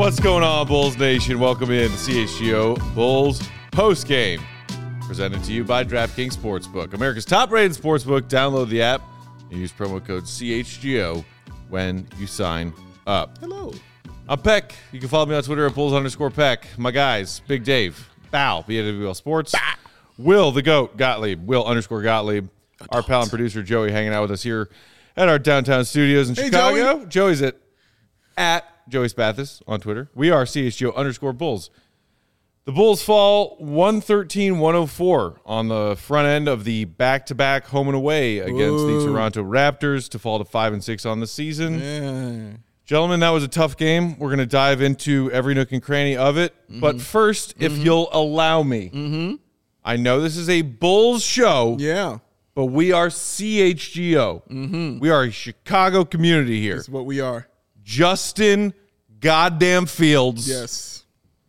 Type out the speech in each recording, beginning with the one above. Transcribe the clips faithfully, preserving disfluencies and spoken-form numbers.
What's going on, Bulls Nation? Welcome in to C H G O Bulls Postgame, presented to you by DraftKings Sportsbook, America's top-rated sportsbook. Download the app and use promo code C H G O when you sign up. Hello. I'm Peck. You can follow me on Twitter at Bulls underscore Peck. My guys, Big Dave, Bow, B A W L Sports, bah. Will, the GOAT, Gottlieb, Will underscore Gottlieb, our pal and producer Joey hanging out with us here at our downtown studios in hey, Chicago. Joey. Joey's at, at Joey Spathis on Twitter. We are C H G O underscore Bulls. The Bulls fall one thirteen one oh four on the front end of the back-to-back home and away against Ooh. the Toronto Raptors to fall to five and six on the season. Yeah. Gentlemen, that was a tough game. We're going to dive into every nook and cranny of it. Mm-hmm. But first, mm-hmm. if you'll allow me, mm-hmm. I know this is a Bulls show. Yeah. But we are C H G O. Mm-hmm. We are a Chicago community here. That's what we are. Justin goddamn Fields. Yes.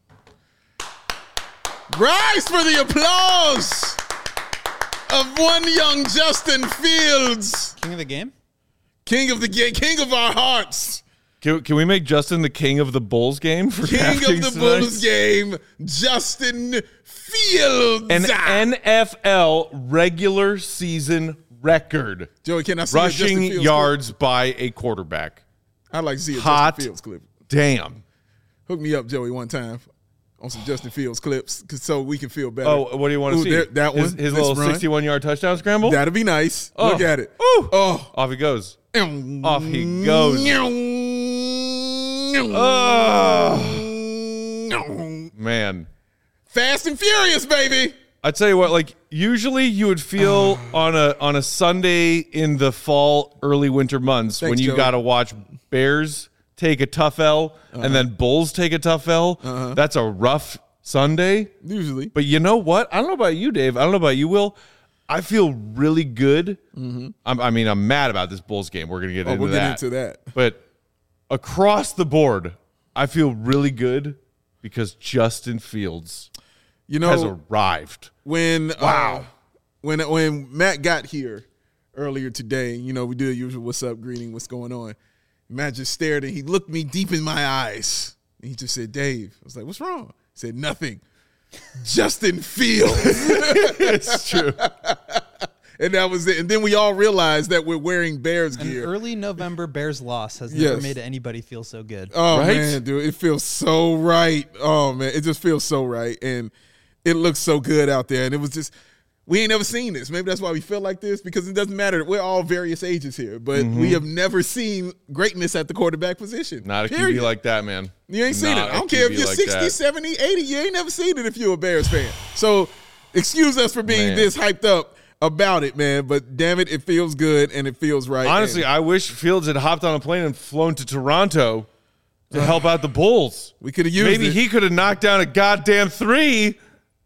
Rise for the applause of one young Justin Fields. King of the game? King of the game. King of our hearts. Can, can we make Justin the king of the Bulls game? For king of the tonight? Bulls game, Justin Fields. An N F L regular season record. Joey, can I see rushing a Justin yards clip? by a quarterback? I'd like to see a Hot Justin Fields clip. Damn. Hook me up, Joey, one time on some Justin Fields clips so we can feel better. Oh, what do you want to Ooh, see? There, that one. His, his little sixty-one-yard touchdown scramble? That'd be nice. Oh. Look at it. Ooh. Oh. Off he goes. Off he goes. Oh. Man. Fast and furious, baby. I tell you what, like usually you would feel on a on a Sunday in the fall, early winter months Thanks, when you Joey. got to watch Bears take a tough L uh-huh. and then Bulls take a tough L. Uh-huh. That's a rough Sunday. Usually. But you know what? I don't know about you, Dave. I don't know about you, Will. I feel really good. Mm-hmm. I'm, I mean, I'm mad about this Bulls game. We're going to get oh, into we'll that. We'll get into that. But across the board, I feel really good because Justin Fields you know, has arrived. When wow, uh, when when Matt got here earlier today, you know, we do the usual "What's up?" greeting, "What's going on?" Matt just stared and he looked me deep in my eyes. And he just said, "Dave." I was like, "What's wrong?" He said, "Nothing." Justin Fields. It's true. And that was it. And then we all realized that we're wearing Bears gear. An early November Bears loss has yes. never made anybody feel so good. Oh, right? man, dude. It feels so right. Oh, man. It just feels so right. And it looks so good out there. And it was just, we ain't never seen this. Maybe that's why we feel like this, because it doesn't matter. We're all various ages here. But mm-hmm. we have never seen greatness at the quarterback position. Not a period. Q B like that, man. You ain't seen Not it. I don't care if you're like sixty, that. seventy, eighty. You ain't never seen it if you're a Bears fan. So excuse us for being man. this hyped up about it, man, but damn it, it feels good and it feels right. Honestly, and I wish Fields had hopped on a plane and flown to Toronto to help out the Bulls. We could have used Maybe it. he could have knocked down a goddamn three.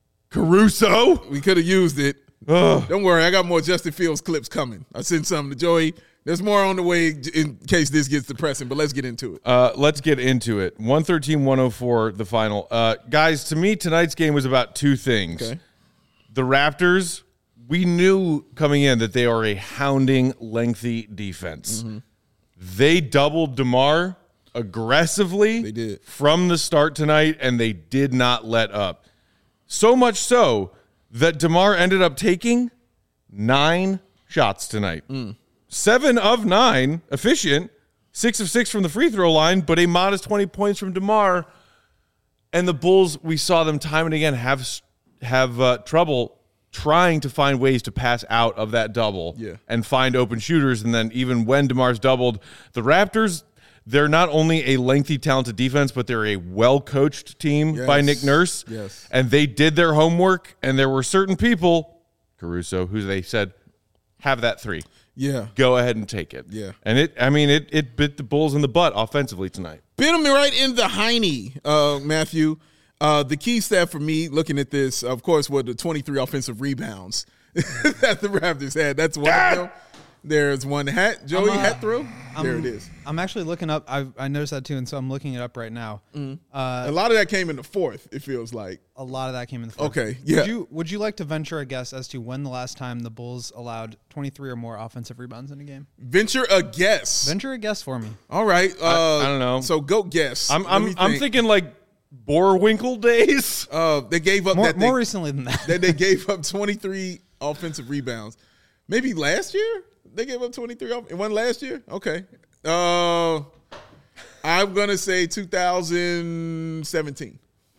Caruso. We could have used it. Ugh. Don't worry, I got more Justin Fields clips coming. I sent something to Joey. There's more on the way in case this gets depressing, but let's get into it. Uh, let's get into it. one thirteen one oh four, the final. Uh, guys, to me, tonight's game was about two things. Okay. The Raptors, we knew coming in that they are a hounding, lengthy defense. Mm-hmm. They doubled DeMar aggressively They did. from the start tonight, and they did not let up. So much so that DeMar ended up taking nine shots tonight. Mm. Seven of nine, efficient, six of six from the free throw line, but a modest twenty points from DeMar. And the Bulls, we saw them time and again have have uh, trouble trying to find ways to pass out of that double yeah. and find open shooters. And then even when DeMar's doubled, the Raptors, they're not only a lengthy, talented defense, but they're a well-coached team yes. by Nick Nurse. Yes. And they did their homework, and there were certain people, Caruso, who they said, have that three. Yeah. Go ahead and take it. Yeah. And it, I mean, it it bit the Bulls in the butt offensively tonight. Bit him right in the hiney, uh, Matthew. Uh, the key stat for me looking at this, of course, were the twenty-three offensive rebounds that the Raptors had. That's one of them. There's one hat. Joey, I'm, uh, hat throw. I'm, there it is. I'm actually looking up. I I noticed that too, and so I'm looking it up right now. Mm-hmm. Uh, A lot of that came in the fourth, it feels like. a lot of that came in the fourth. Okay, yeah. Would you Would you like to venture a guess as to when the last time the Bulls allowed twenty-three or more offensive rebounds in a game? Venture a guess. Venture a guess for me. All right. Uh, I don't know. So go guess. I'm Let I'm me I'm think. thinking like Boerwinkle days. Uh, they gave up More, that more they, recently than that. that they gave up twenty-three offensive rebounds. Maybe last year they gave up twenty-three. Off- it wasn't last year. Okay. Uh, I'm gonna say two thousand seventeen.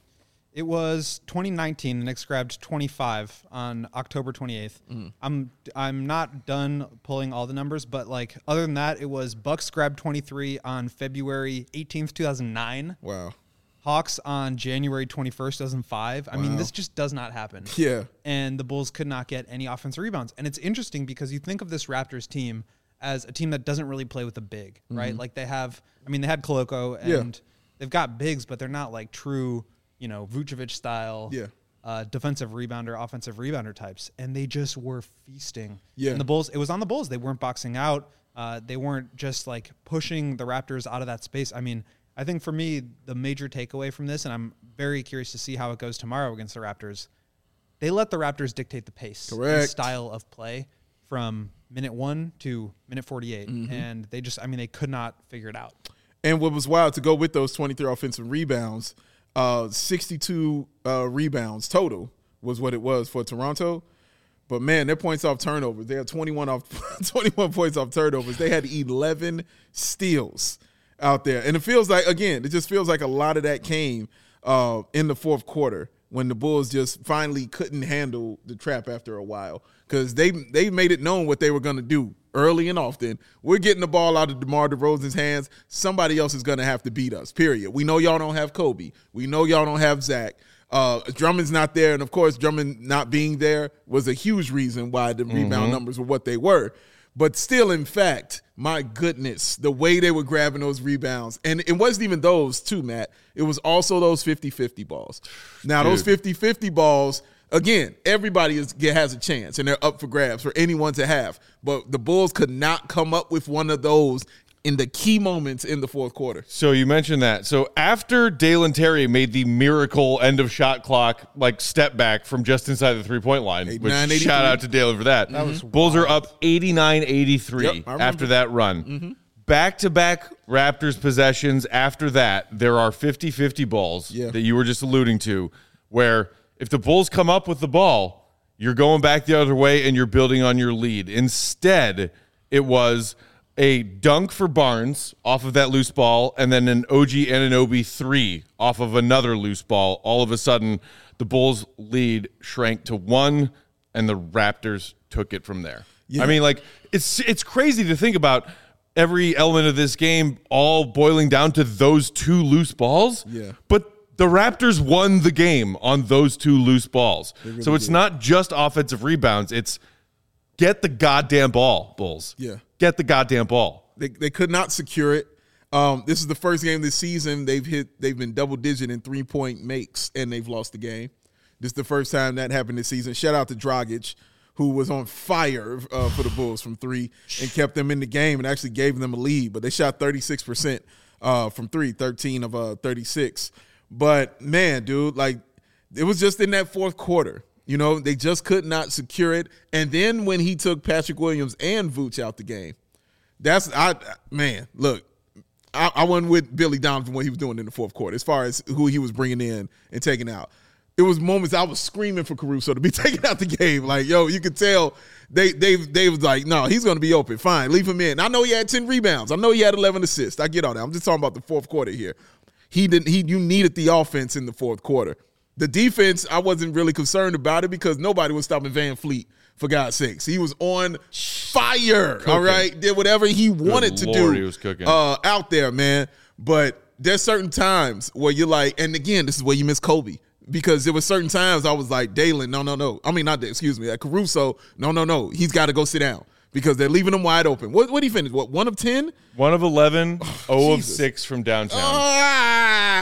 It was twenty nineteen. The Knicks grabbed twenty-five on October twenty-eighth. Mm. I'm I'm not done pulling all the numbers, but like other than that, it was Bucks grabbed twenty-three on February eighteenth, two thousand nine. Wow. Hawks on January twenty-first, two thousand five. I mean, Wow. this just does not happen. Yeah. And the Bulls could not get any offensive rebounds. And it's interesting because you think of this Raptors team as a team that doesn't really play with the big, right? Like they have, I mean, they had Koloko and Yeah. they've got bigs, but they're not like true, you know, Vucevic style Yeah. uh, defensive rebounder, offensive rebounder types. And they just were feasting. Yeah. And the Bulls, it was on the Bulls. They weren't boxing out. Uh, they weren't just like pushing the Raptors out of that space. I mean, I think for me, the major takeaway from this, and I'm very curious to see how it goes tomorrow against the Raptors, they let the Raptors dictate the pace and Correct. style of play from minute one to minute forty-eight. Mm-hmm. And they just, I mean, they could not figure it out. And what was wild to go with those twenty-three offensive rebounds, uh, sixty-two uh, rebounds total was what it was for Toronto. But man, their points off turnovers, they had twenty-one off twenty-one points off turnovers. They had eleven steals out there. And it feels like, again, it just feels like a lot of that came uh, in the fourth quarter when the Bulls just finally couldn't handle the trap after a while, because they they made it known what they were going to do early and often. We're getting the ball out of DeMar DeRozan's hands. Somebody else is going to have to beat us, period. We know y'all don't have Kobe. We know y'all don't have Zach. Uh, Drummond's not there, and, of course, Drummond not being there was a huge reason why the rebound numbers were what they were. But still, in fact, my goodness, the way they were grabbing those rebounds. And it wasn't even those, too, Matt. It was also those fifty-fifty balls. Now, Dude. those fifty-fifty balls, again, everybody is, has a chance, and they're up for grabs for anyone to have. But the Bulls could not come up with one of those in the key moments in the fourth quarter. So you mentioned that. So after Dalen Terry made the miracle end of shot clock, like step back from just inside the three-point line, which eighty-nine eighty-three. shout out to Dalen for that. That was Bulls are up eighty-nine eighty-three Yep, I remember. after that run. Back-to-back Raptors possessions after that, there are fifty-fifty balls Yeah. that you were just alluding to, where if the Bulls come up with the ball, you're going back the other way and you're building on your lead. Instead, it was a dunk for Barnes off of that loose ball, and then an O G Anunoby three off of another loose ball. All of a sudden, the Bulls' lead shrank to one, and the Raptors took it from there. Yeah. I mean, like, it's it's crazy to think about every element of this game all boiling down to those two loose balls. Yeah. But the Raptors won the game on those two loose balls. really So it's did. not just offensive rebounds. It's get the goddamn ball, Bulls. Yeah. Get the goddamn ball. They they could not secure it. Um, this is the first game this season they've hit. They've been double digit in three point makes, and they've lost the game. This is the first time that happened this season. Shout out to Dragic, who was on fire uh, for the Bulls from three and kept them in the game and actually gave them a lead. But they shot thirty-six percent uh, from three, thirteen of uh, thirty-six. But man, dude, like it was just in that fourth quarter. You know, they just could not secure it. And then when he took Patrick Williams and Vooch out the game, that's I man, look, I, I wasn't with Billy Donovan what he was doing in the fourth quarter as far as who he was bringing in and taking out. It was moments I was screaming for Caruso to be taken out the game. Like, yo, you could tell they they they was like, no, he's going to be open. Fine, leave him in. I know he had ten rebounds. I know he had eleven assists. I get all that. I'm just talking about the fourth quarter here. He didn't. He you needed the offense in the fourth quarter. The defense, I wasn't really concerned about it because nobody was stopping Van Fleet, for God's sakes. He was on fire, Cooking. all right? Did whatever he wanted to Lord, do he was cooking. Uh, out there, man. But there's certain times where you're like, and again, this is where you miss Kobe. Because there were certain times I was like, Dalen, no, no, no. I mean, not, excuse me, like Caruso, no, no, no. He's got to go sit down because they're leaving him wide open. What What did he finish? What, one of ten? One of eleven, oh of Jesus. six from downtown. Ah!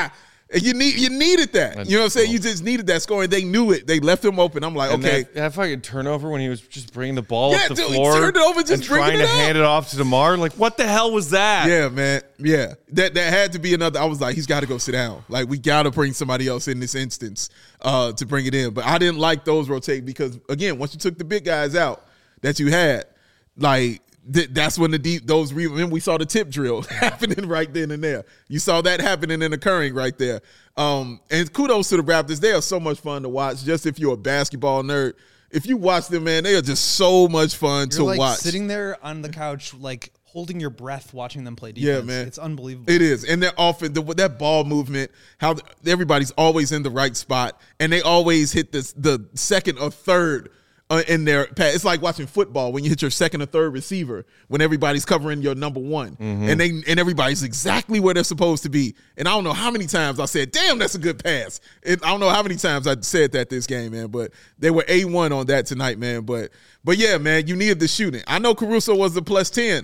And you need you needed that. That's you know what I'm saying? cool. You just needed that scoring. They knew it. They left him open. I'm like, And okay. that, that fucking turnover when he was just bringing the ball Yeah, up the dude, he floor turned it over, just and bringing trying it to up. hand it off to DeMar. Like, what the hell was that? Yeah, man. Yeah. That that had to be another. I was like, he's got to go sit down. Like, we got to bring somebody else in this instance uh, to bring it in. But I didn't like those rotate because, again, once you took the big guys out that you had, like, th- that's when the deep, those, re- remember we saw the tip drill happening right then and there. You saw that happening and occurring right there. Um, and kudos to the Raptors. They are so much fun to watch, just if you're a basketball nerd. If you watch them, man, they are just so much fun You're to like watch. sitting there on the couch, like holding your breath, watching them play Yeah, defense. man. It's unbelievable. It is. And they're often, the, that ball movement, how the, everybody's always in the right spot, and they always hit this, the second or third uh, in their pass. It's like watching football when you hit your second or third receiver when everybody's covering your number one. Mm-hmm. And they and everybody's exactly where they're supposed to be. And I don't know how many times I said, damn, that's a good pass. And I don't know how many times I said that this game, man. But they were A one on that tonight, man. But but yeah, man, you needed the shooting. I know Caruso was the plus ten.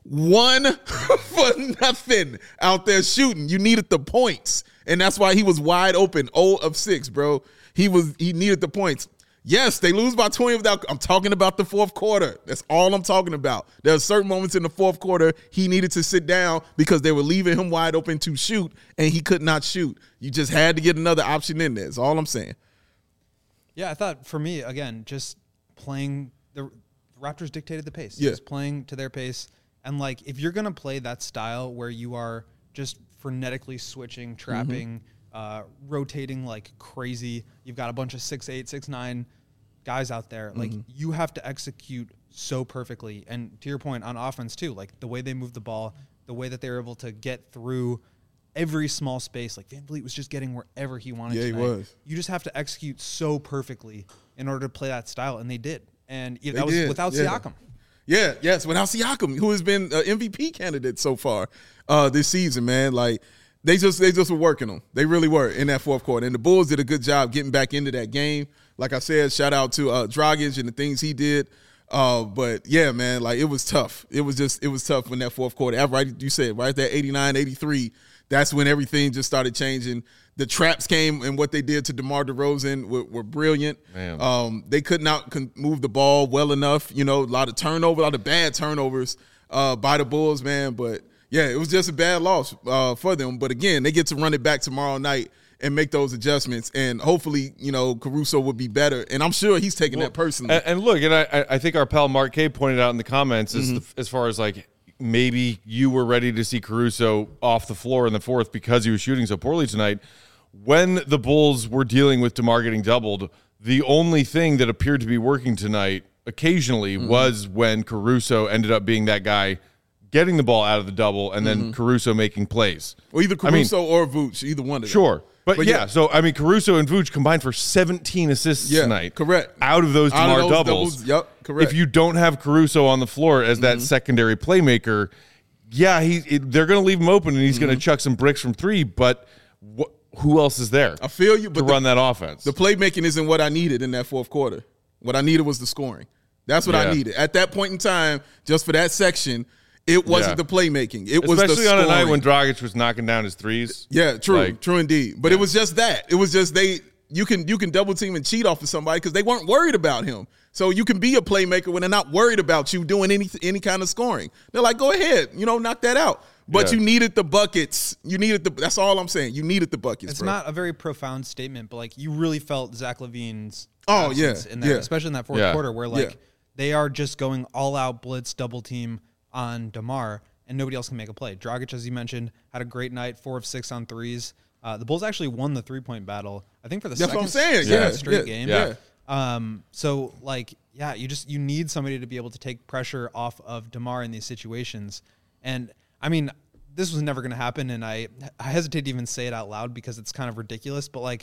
One for nothing out there shooting. You needed the points. And that's why he was wide open. zero of six, bro. He was he needed the points. Yes, they lose by twenty without I'm talking about the fourth quarter. That's all I'm talking about. There are certain moments in the fourth quarter he needed to sit down because they were leaving him wide open to shoot, and he could not shoot. You just had to get another option in there. That's all I'm saying. Yeah, I thought for me, again, just playing the Raptors dictated the pace. Yeah. Just playing to their pace. And like if you're gonna play that style where you are just frenetically switching, trapping, mm-hmm. uh, rotating like crazy, you've got a bunch of six eight, six nine guys out there. Like mm-hmm. you have to execute so perfectly. And to your point on offense too, like the way they move the ball, the way that they were able to get through every small space. Like Van Vliet was just getting wherever he wanted. Yeah, tonight. he was. You just have to execute so perfectly in order to play that style, and they did. And you know, They that was did, without yeah. Siakam. Yeah, yes, without Siakam, who has been an M V P candidate so far uh, this season, man. Like they just they just were working them. They really were in that fourth quarter. And the Bulls did a good job getting back into that game. Like I said, shout out to uh, Dragic and the things he did. Uh, but yeah, man, like it was tough. It was just it was tough in that fourth quarter. Right, you said right there, eighty-nine, eighty-three. That's when everything just started changing. The traps came, and what they did to DeMar DeRozan were, were brilliant. Um, they could not con- move the ball well enough. You know, a lot of turnover, a lot of bad turnovers uh, by the Bulls, man. But yeah, it was just a bad loss uh, for them. But again, they get to run it back tomorrow night and make those adjustments, and hopefully, you know, Caruso would be better. And I'm sure he's taking well, that personally. And, and look, and I, I think our pal Mark K pointed out in the comments mm-hmm. as, the, as far as like maybe you were ready to see Caruso off the floor in the fourth because he was shooting so poorly tonight. When the Bulls were dealing with DeMar getting doubled, the only thing that appeared to be working tonight occasionally mm-hmm. was when Caruso ended up being that guy getting the ball out of the double and then mm-hmm. Caruso making plays. Well, either Caruso I mean, or Vooch, either one of them. Sure. But, but yeah, yeah, so, I mean, Caruso and Vooch combined for seventeen assists yeah, tonight. Correct. Out of those DeMar doubles. doubles. Yep, correct. If you don't have Caruso on the floor as that mm-hmm. secondary playmaker, yeah, he it, they're going to leave him open and he's mm-hmm. going to chuck some bricks from three, but wh- who else is there I feel you, but to the, run that offense? The playmaking isn't what I needed in that fourth quarter. What I needed was the scoring. That's what yeah. I needed. At that point in time, just for that section, it wasn't yeah. the playmaking. It Especially was the scoring. on a night when Dragic was knocking down his threes. Yeah, true, like, true indeed. But yeah. it was just that. It was just they. You can you can double team and cheat off of somebody because they weren't worried about him. So you can be a playmaker when they're not worried about you doing any any kind of scoring. They're like, go ahead, you know, knock that out. But yeah. you needed the buckets. You needed the. That's all I'm saying. You needed the buckets. It's bro. not a very profound statement, but like you really felt Zach LaVine's oh yeah in there, yeah. especially in that fourth yeah. quarter where like yeah. they are just going all out blitz double team on DeMar and nobody else can make a play. Dragic, as you mentioned, had a great night, four of six on threes. Uh, the Bulls actually won the three point battle. I think for the that's second, what I'm saying. second Yeah. straight yeah. game. Yeah. Um. So like yeah, you just you need somebody to be able to take pressure off of DeMar in these situations, and I mean. This was never going to happen, and I, I hesitate to even say it out loud because it's kind of ridiculous, but like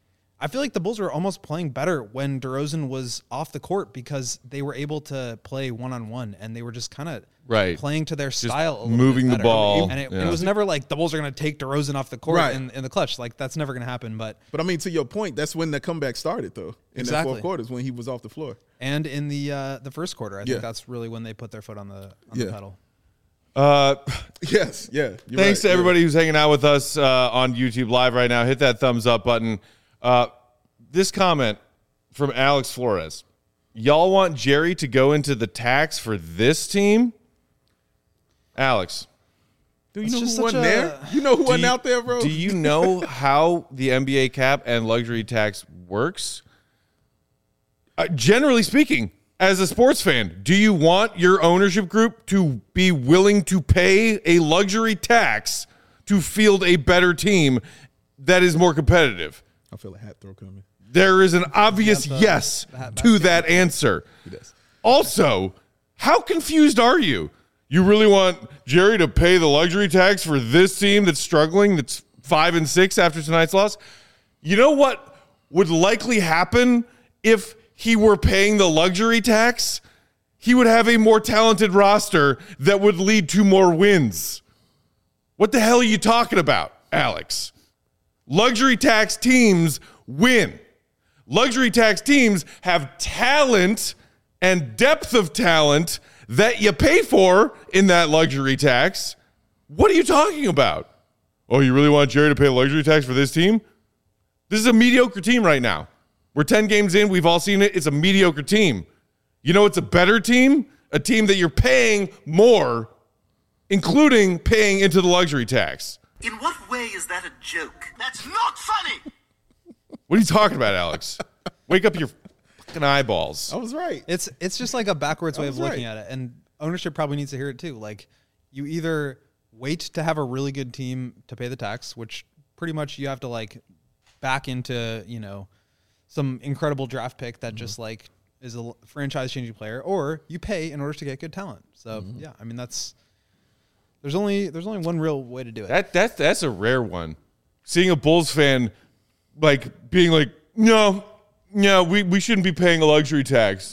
I feel like the Bulls were almost playing better when DeRozan was off the court because they were able to play one-on-one, and they were just kind of right. playing to their just style a little moving bit the better. ball. And it, yeah. it was never like the Bulls are going to take DeRozan off the court right. in, in the clutch. Like, that's never going to happen. But But, I mean, to your point, that's when the comeback started, though, in exactly. that fourth quarter is when he was off the floor. And in the uh, the first quarter, I yeah. think that's really when they put their foot on the, on yeah. the pedal. Uh, Yes, yeah. thanks right, to everybody who's hanging out with us uh, on YouTube Live right now. Hit that thumbs up button. Uh, this comment from Alex Flores. Y'all want Jerry to go into the tax for this team? Alex. Do you It's know just who wasn't such a- there? You know who wasn't you- out there, bro? Do you know how the N B A cap and luxury tax works? Uh, generally speaking, as a sports fan, do you want your ownership group to be willing to pay a luxury tax to field a better team that is more competitive? I feel a hat throw coming. There is an obvious the- yes the hat to that answer. does. Also, how confused are you? You really want Jerry to pay the luxury tax for this team that's struggling, that's five and six after tonight's loss? You know what would likely happen if he were paying the luxury tax? He would have a more talented roster that would lead to more wins. What the hell are you talking about, Alex? Luxury tax teams win. Luxury tax teams have talent and depth of talent that you pay for in that luxury tax. What are you talking about? Oh, you really want Jerry to pay a luxury tax for this team? This is a mediocre team right now. We're ten games in. We've all seen it. It's a mediocre team. You know it's a better team? A team that you're paying more, including paying into the luxury tax. In what way is that a joke? That's not funny! What are you talking about, Alex? Wake up your fucking eyeballs. I was right. It's it's just like a backwards way of was looking right. at it, and ownership probably needs to hear it too. Like, you either wait to have a really good team to pay the tax, which pretty much you have to like back into, you know, some incredible draft pick that just like is a franchise changing player, or you pay in order to get good talent. So yeah, I mean that's there's only there's only one real way to do it. That that that's a rare one. Seeing a Bulls fan like being like, no, no, we, we shouldn't be paying a luxury tax.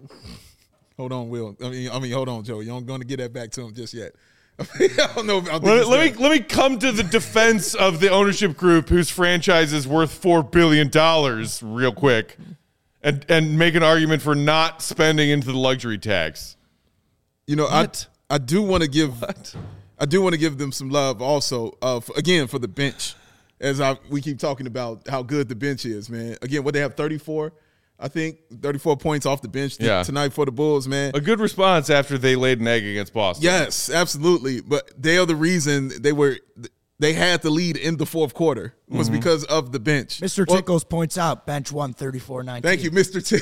Hold on, Will. I mean, I mean, hold on, Joe. You aren't going to get that back to him just yet. I don't know. If, I think Let, he's let me gonna- let me come to the defense of the ownership group whose franchise is worth four billion dollars real quick, and and make an argument for not spending into the luxury tax. You know, What? I I do want to give What? I do want to give them some love also. Uh, for, again for the bench, as I we keep talking about how good the bench is, man. Again, what they have thirty-four, I think thirty-four points off the bench th- Yeah. tonight for the Bulls, man. A good response after they laid an egg against Boston. Yes, absolutely. But they are the reason they were they had the lead in the fourth quarter was Mm-hmm. because of the bench. Mister Well, Tickles points out bench one thirty-four nineteen. Thank you, Mister T.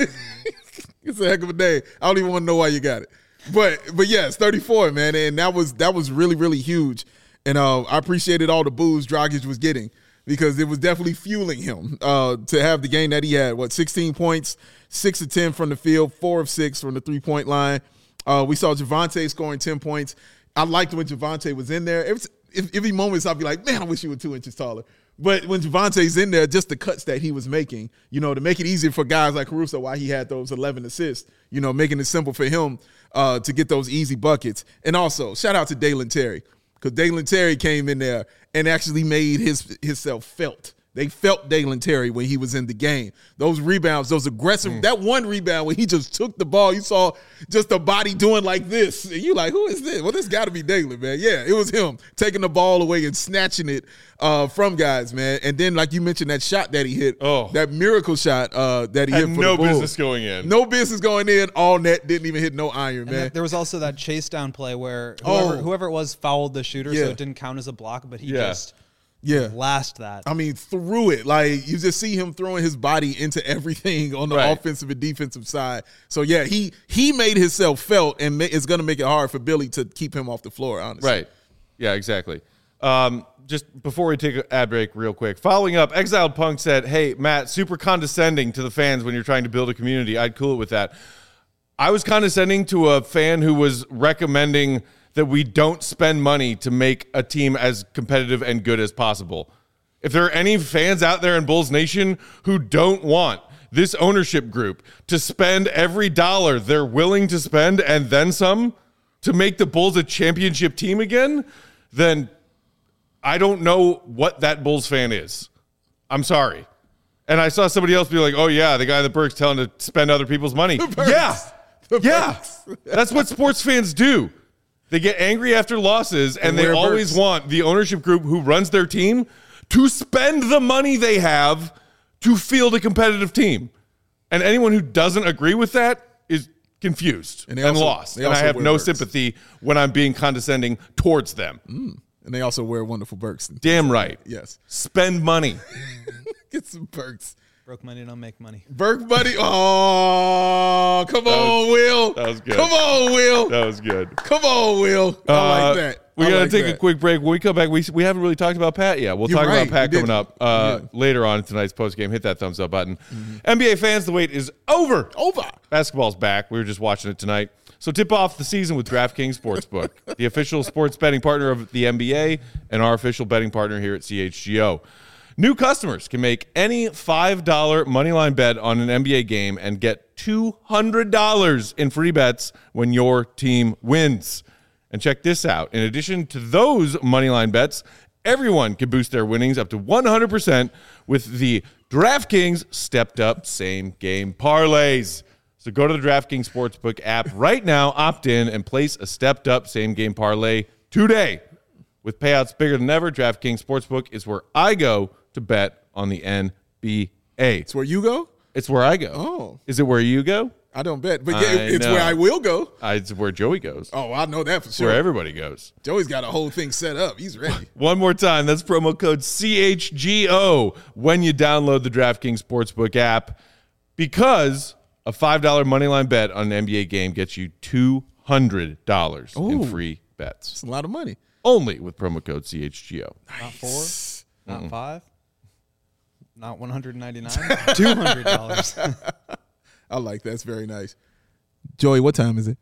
It's a heck of a day. I don't even want to know why you got it. But but yes, thirty-four, man. And that was that was really, really huge. And uh, I appreciated all the boos Dragic was getting because it was definitely fueling him uh, to have the game that he had. What, sixteen points, six of ten from the field, four of six from the three-point line. Uh, we saw Javante scoring ten points. I liked when Javante was in there. Every, if, every moment I'd be like, man, I wish you were two inches taller. But when Javante's in there, just the cuts that he was making, you know, to make it easier for guys like Caruso, why he had those eleven assists, you know, making it simple for him uh, to get those easy buckets. And also, shout out to Dalen Terry, because Dalen Terry came in there and actually made his himself felt. They felt Dalen Terry when he was in the game. Those rebounds, those aggressive, Mm. that one rebound when he just took the ball, you saw just the body doing like this. And you like, who is this? Well, this got to be Dalen, man. Yeah, it was him taking the ball away and snatching it uh, from guys, man. And then, like you mentioned, that shot that he hit, Oh. that miracle shot uh, that he Had hit for no the Bulls. business going in. No business going in. All net, didn't even hit no iron, And man. th- there was also that chase down play where whoever, Oh. whoever it was fouled the shooter, Yeah. so it didn't count as a block, but he Yeah. just Yeah. last that. I mean, through it. Like, you just see him throwing his body into everything on the Right. offensive and defensive side. So, yeah, he he made himself felt, and ma- it's going to make it hard for Billy to keep him off the floor, honestly. Right. Yeah, exactly. Um, just before we take an ad break real quick, following up, Exiled Punk said, hey, Matt, super condescending to the fans when you're trying to build a community. I'd cool it with that. I was condescending to a fan who was recommending that we don't spend money to make a team as competitive and good as possible. If there are any fans out there in Bulls Nation who don't want this ownership group to spend every dollar they're willing to spend and then some to make the Bulls a championship team again, then I don't know what that Bulls fan is. I'm sorry. And I saw somebody else be like, oh, yeah, the guy in the Berks telling to spend other people's money. Berks. Yeah. The Yeah. Berks. That's what sports fans do. They get angry after losses, and, And they wear always Birks. want the ownership group who runs their team to spend the money they have to field a competitive team. And anyone who doesn't agree with that is confused And and, they also- lost. they And I also have wear no Birks. sympathy when I'm being condescending towards them. And they also wear wonderful Birks. Damn right. Yes. Spend money. Get some Birks. Broke money don't make money. Burke buddy. Oh, come on, Will. that was good. Come on, Will. That was good. Come on, Will. I Uh, like that. We I got to like take that. a quick break. When we come back, we we haven't really talked about Pat yet. We'll You're talk right. about Pat We coming didn't. up uh, Yeah. later on in tonight's postgame. Hit that thumbs up button. N B A fans, the wait is over. Over. Basketball's back. We were just watching it tonight. So tip off the season with DraftKings Sportsbook, the official sports betting partner of the N B A and our official betting partner here at C H G O. New customers can make any five dollar moneyline bet on an N B A game and get two hundred dollars in free bets when your team wins. And check this out. In addition to those moneyline bets, everyone can boost their winnings up to one hundred percent with the DraftKings stepped up same game parlays. So go to the DraftKings Sportsbook app right now, opt in, and place a stepped up same game parlay today. With payouts bigger than ever, DraftKings Sportsbook is where I go to bet on the N B A. It's where you go? It's where I go. Oh. Is it where you go? I don't bet. But yeah, I it's know. where I will go. Uh, it's where Joey goes. Oh, I know that for It's sure. where everybody goes. Joey's got a whole thing set up. He's ready. One more time, that's promo code C H G O when you download the DraftKings Sportsbook app, because a five dollar moneyline bet on an N B A game gets you two hundred dollars in Ooh. free bets. It's a lot of money. Only with promo code C H G O. Not four, not five, not one hundred ninety-nine, two hundred dollars. I like that. That's very nice. Joey, what time is it?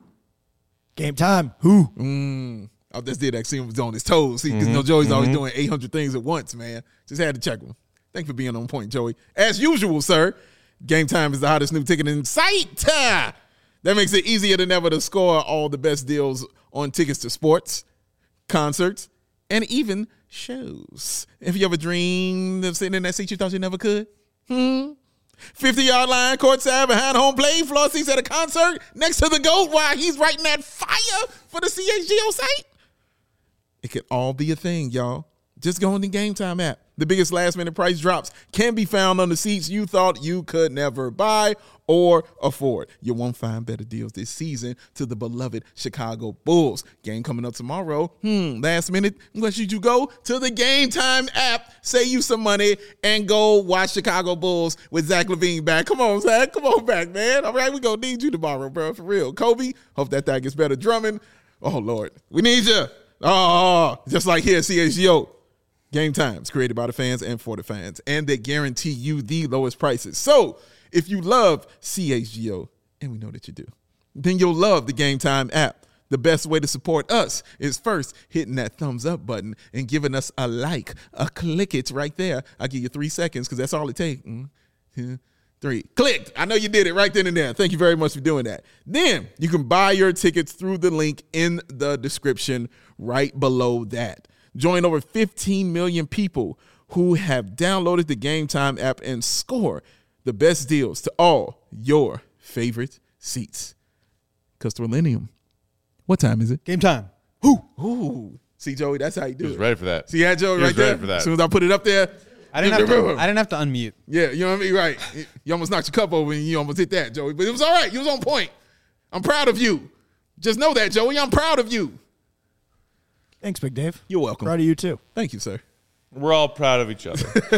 Game time. Who? Mm, I just did that. See him was on his toes. See, because you know Joey's always doing eight hundred things at once, man. Just had to check him. Thanks for being on point, Joey. As usual, sir, Game Time is the hottest new ticket in sight. Ah, that makes it easier than ever to score all the best deals on tickets to sports, concerts, and even shows. If you ever dreamed of sitting in that seat you thought you never could, hmm? fifty-yard line, courtside, behind home plate, floor seats at a concert, next to the GOAT while he's writing that fire for the C H G O site. It could all be a thing, y'all. Just go on the Game Time app. The biggest last-minute price drops can be found on the seats you thought you could never buy or afford. You won't find better deals this season to the beloved Chicago Bulls. Game coming up tomorrow. Hmm, last minute, where should you go? To the Game Time app. Save you some money and go watch Chicago Bulls with Zach LaVine back. Come on, Zach. Come on back, man. All right, we gonna need you tomorrow, bro, for real. Kobe, hope that thing gets better. Drummond, oh, Lord. We need you. Oh, just like here at C H G O. Game Times, created by the fans and for the fans, and they guarantee you the lowest prices. So if you love C H G O, and we know that you do, then you'll love the Game Time app. The best way to support us is first hitting that thumbs up button and giving us a like, a click it right there. I'll give you three seconds because that's all it takes. Mm, two, three. Clicked. I know you did it right then and there. Thank you very much for doing that. Then you can buy your tickets through the link in the description right below that. Join over fifteen million people who have downloaded the Game Time app and score the best deals to all your favorite seats. Because Millennium, what time is it? Game time. Ooh, ooh. See, Joey, that's how you do He was it. ready for that. See that, Joey, He right was there? ready for that. As soon as I put it up there. I didn't have to. I didn't have to unmute. Yeah, you know what I mean? Right. You almost knocked your cup over and you almost hit that, Joey. But it was all right. You was on point. I'm proud of you. Just know that, Joey. I'm proud of you. Thanks, Big Dave. You're welcome. Proud of you, too. Thank you, sir. We're all proud of each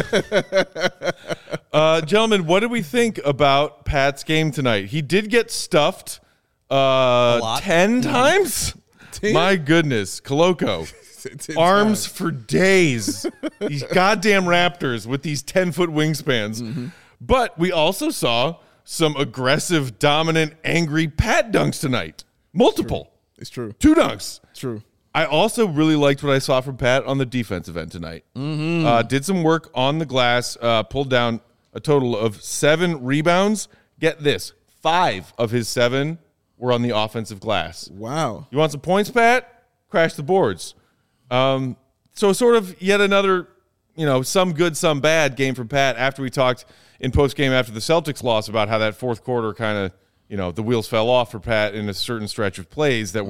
other. uh, gentlemen, what did we think about Pat's game tonight? He did get stuffed uh, lot. ten times? Ten? My goodness. Coloco. Ten Arms times. for days. These goddamn Raptors with these ten-foot wingspans. Mm-hmm. But we also saw some aggressive, dominant, angry Pat dunks tonight. Multiple. It's true. Two dunks. It's true. I also really liked what I saw from Pat on the defensive end tonight. Mm-hmm. Uh, did some work on the glass, uh, pulled down a total of seven rebounds. Get this, five of his seven were on the offensive glass. Wow. You want some points, Pat? Crash the boards. Um, so sort of yet another, you know, some good, some bad game from Pat after we talked in postgame after the Celtics loss about how that fourth quarter kind of, you know, the wheels fell off for Pat in a certain stretch of plays that were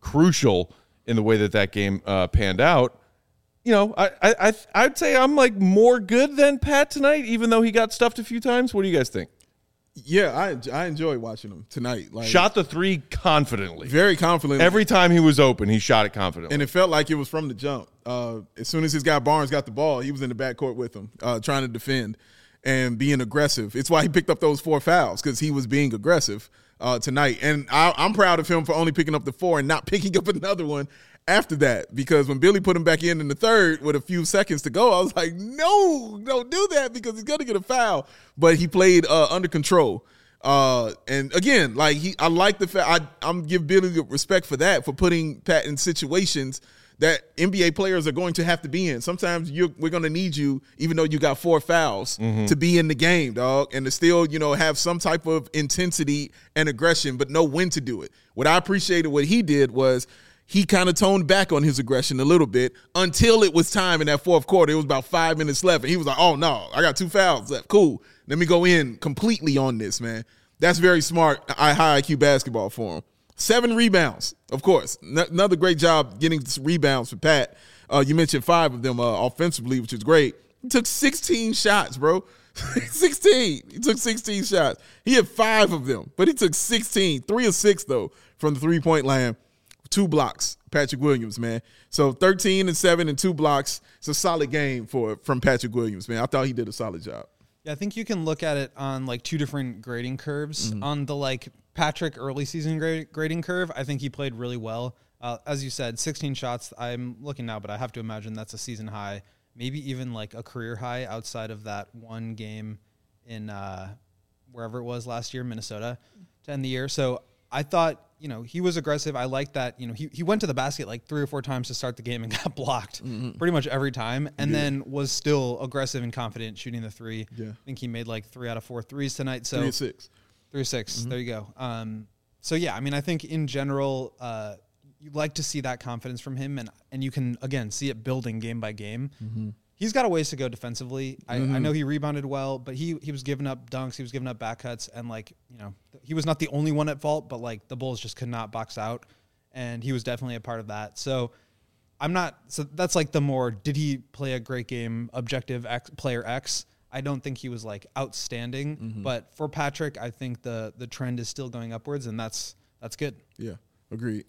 crucial in the way that that game uh, panned out. You know, I, I, I, I'd say I'm like more good than Pat tonight, even though he got stuffed a few times. What do you guys think? Yeah, I I enjoy watching him tonight. Like, Shot the three confidently. very confidently. Every time he was open, he shot it confidently. And it felt like it was from the jump. Uh, as soon as his guy Barnes got the ball, he was in the backcourt with him, uh, trying to defend and being aggressive. It's why he picked up those four fouls, because he was being aggressive uh, tonight. And I, I'm proud of him for only picking up the four and not picking up another one after that, because when Billy put him back in in the third with a few seconds to go, I was like, no, don't do that, because he's going to get a foul. But he played uh, under control. Uh, and again, like he, I like the fact I, I'm give Billy respect for that, for putting Pat in situations that N B A players are going to have to be in. Sometimes you're, we're going to need you, even though you got four fouls, mm-hmm. to be in the game, dog, and to still, you know, have some type of intensity and aggression, but know when to do it. What I appreciated what he did was he kind of toned back on his aggression a little bit until it was time in that fourth quarter. It was about five minutes left, and he was like, oh, no, I got two fouls left. Cool. Let me go in completely on this, man. That's very smart, high I Q basketball for him. Seven rebounds, of course. N- another great job getting rebounds for Pat. Uh, you mentioned five of them uh, offensively, which is great. He took sixteen shots, bro. sixteen. He took sixteen shots. He had five of them, but he took sixteen. Three or six, though, from the three-point line. Two blocks, Patrick Williams, man. So thirteen and seven and two blocks. It's a solid game for from Patrick Williams, man. I thought he did a solid job. Yeah, I think you can look at it on like two different grading curves. Mm-hmm. On the like Patrick early season grade, grading curve, I think he played really well. Uh, as you said, sixteen shots. I'm looking now, but I have to imagine that's a season high, maybe even like a career high outside of that one game in uh, wherever it was last year, Minnesota, to end the year. So I thought, you know, he was aggressive. I like that. You know, he, he went to the basket like three or four times to start the game and got blocked mm-hmm. pretty much every time, and yeah. then was still aggressive and confident shooting the three. Yeah. I think he made like three out of four threes tonight. So three or six. Three or six. Mm-hmm. There you go. Um, so yeah, I mean, I think in general, uh, you like to see that confidence from him, and and you can again see it building game by game. Mm-hmm. He's got a ways to go defensively. I, mm-hmm. I know he rebounded well, but he he was giving up dunks, he was giving up back cuts, and like, you know, he was not the only one at fault, but like the Bulls just could not box out, and he was definitely a part of that. So I'm not, so that's like the more, did he play a great game, objective X, player X? I don't think he was like outstanding, mm-hmm. but for Patrick, I think the the trend is still going upwards, and that's that's good. Yeah, agreed.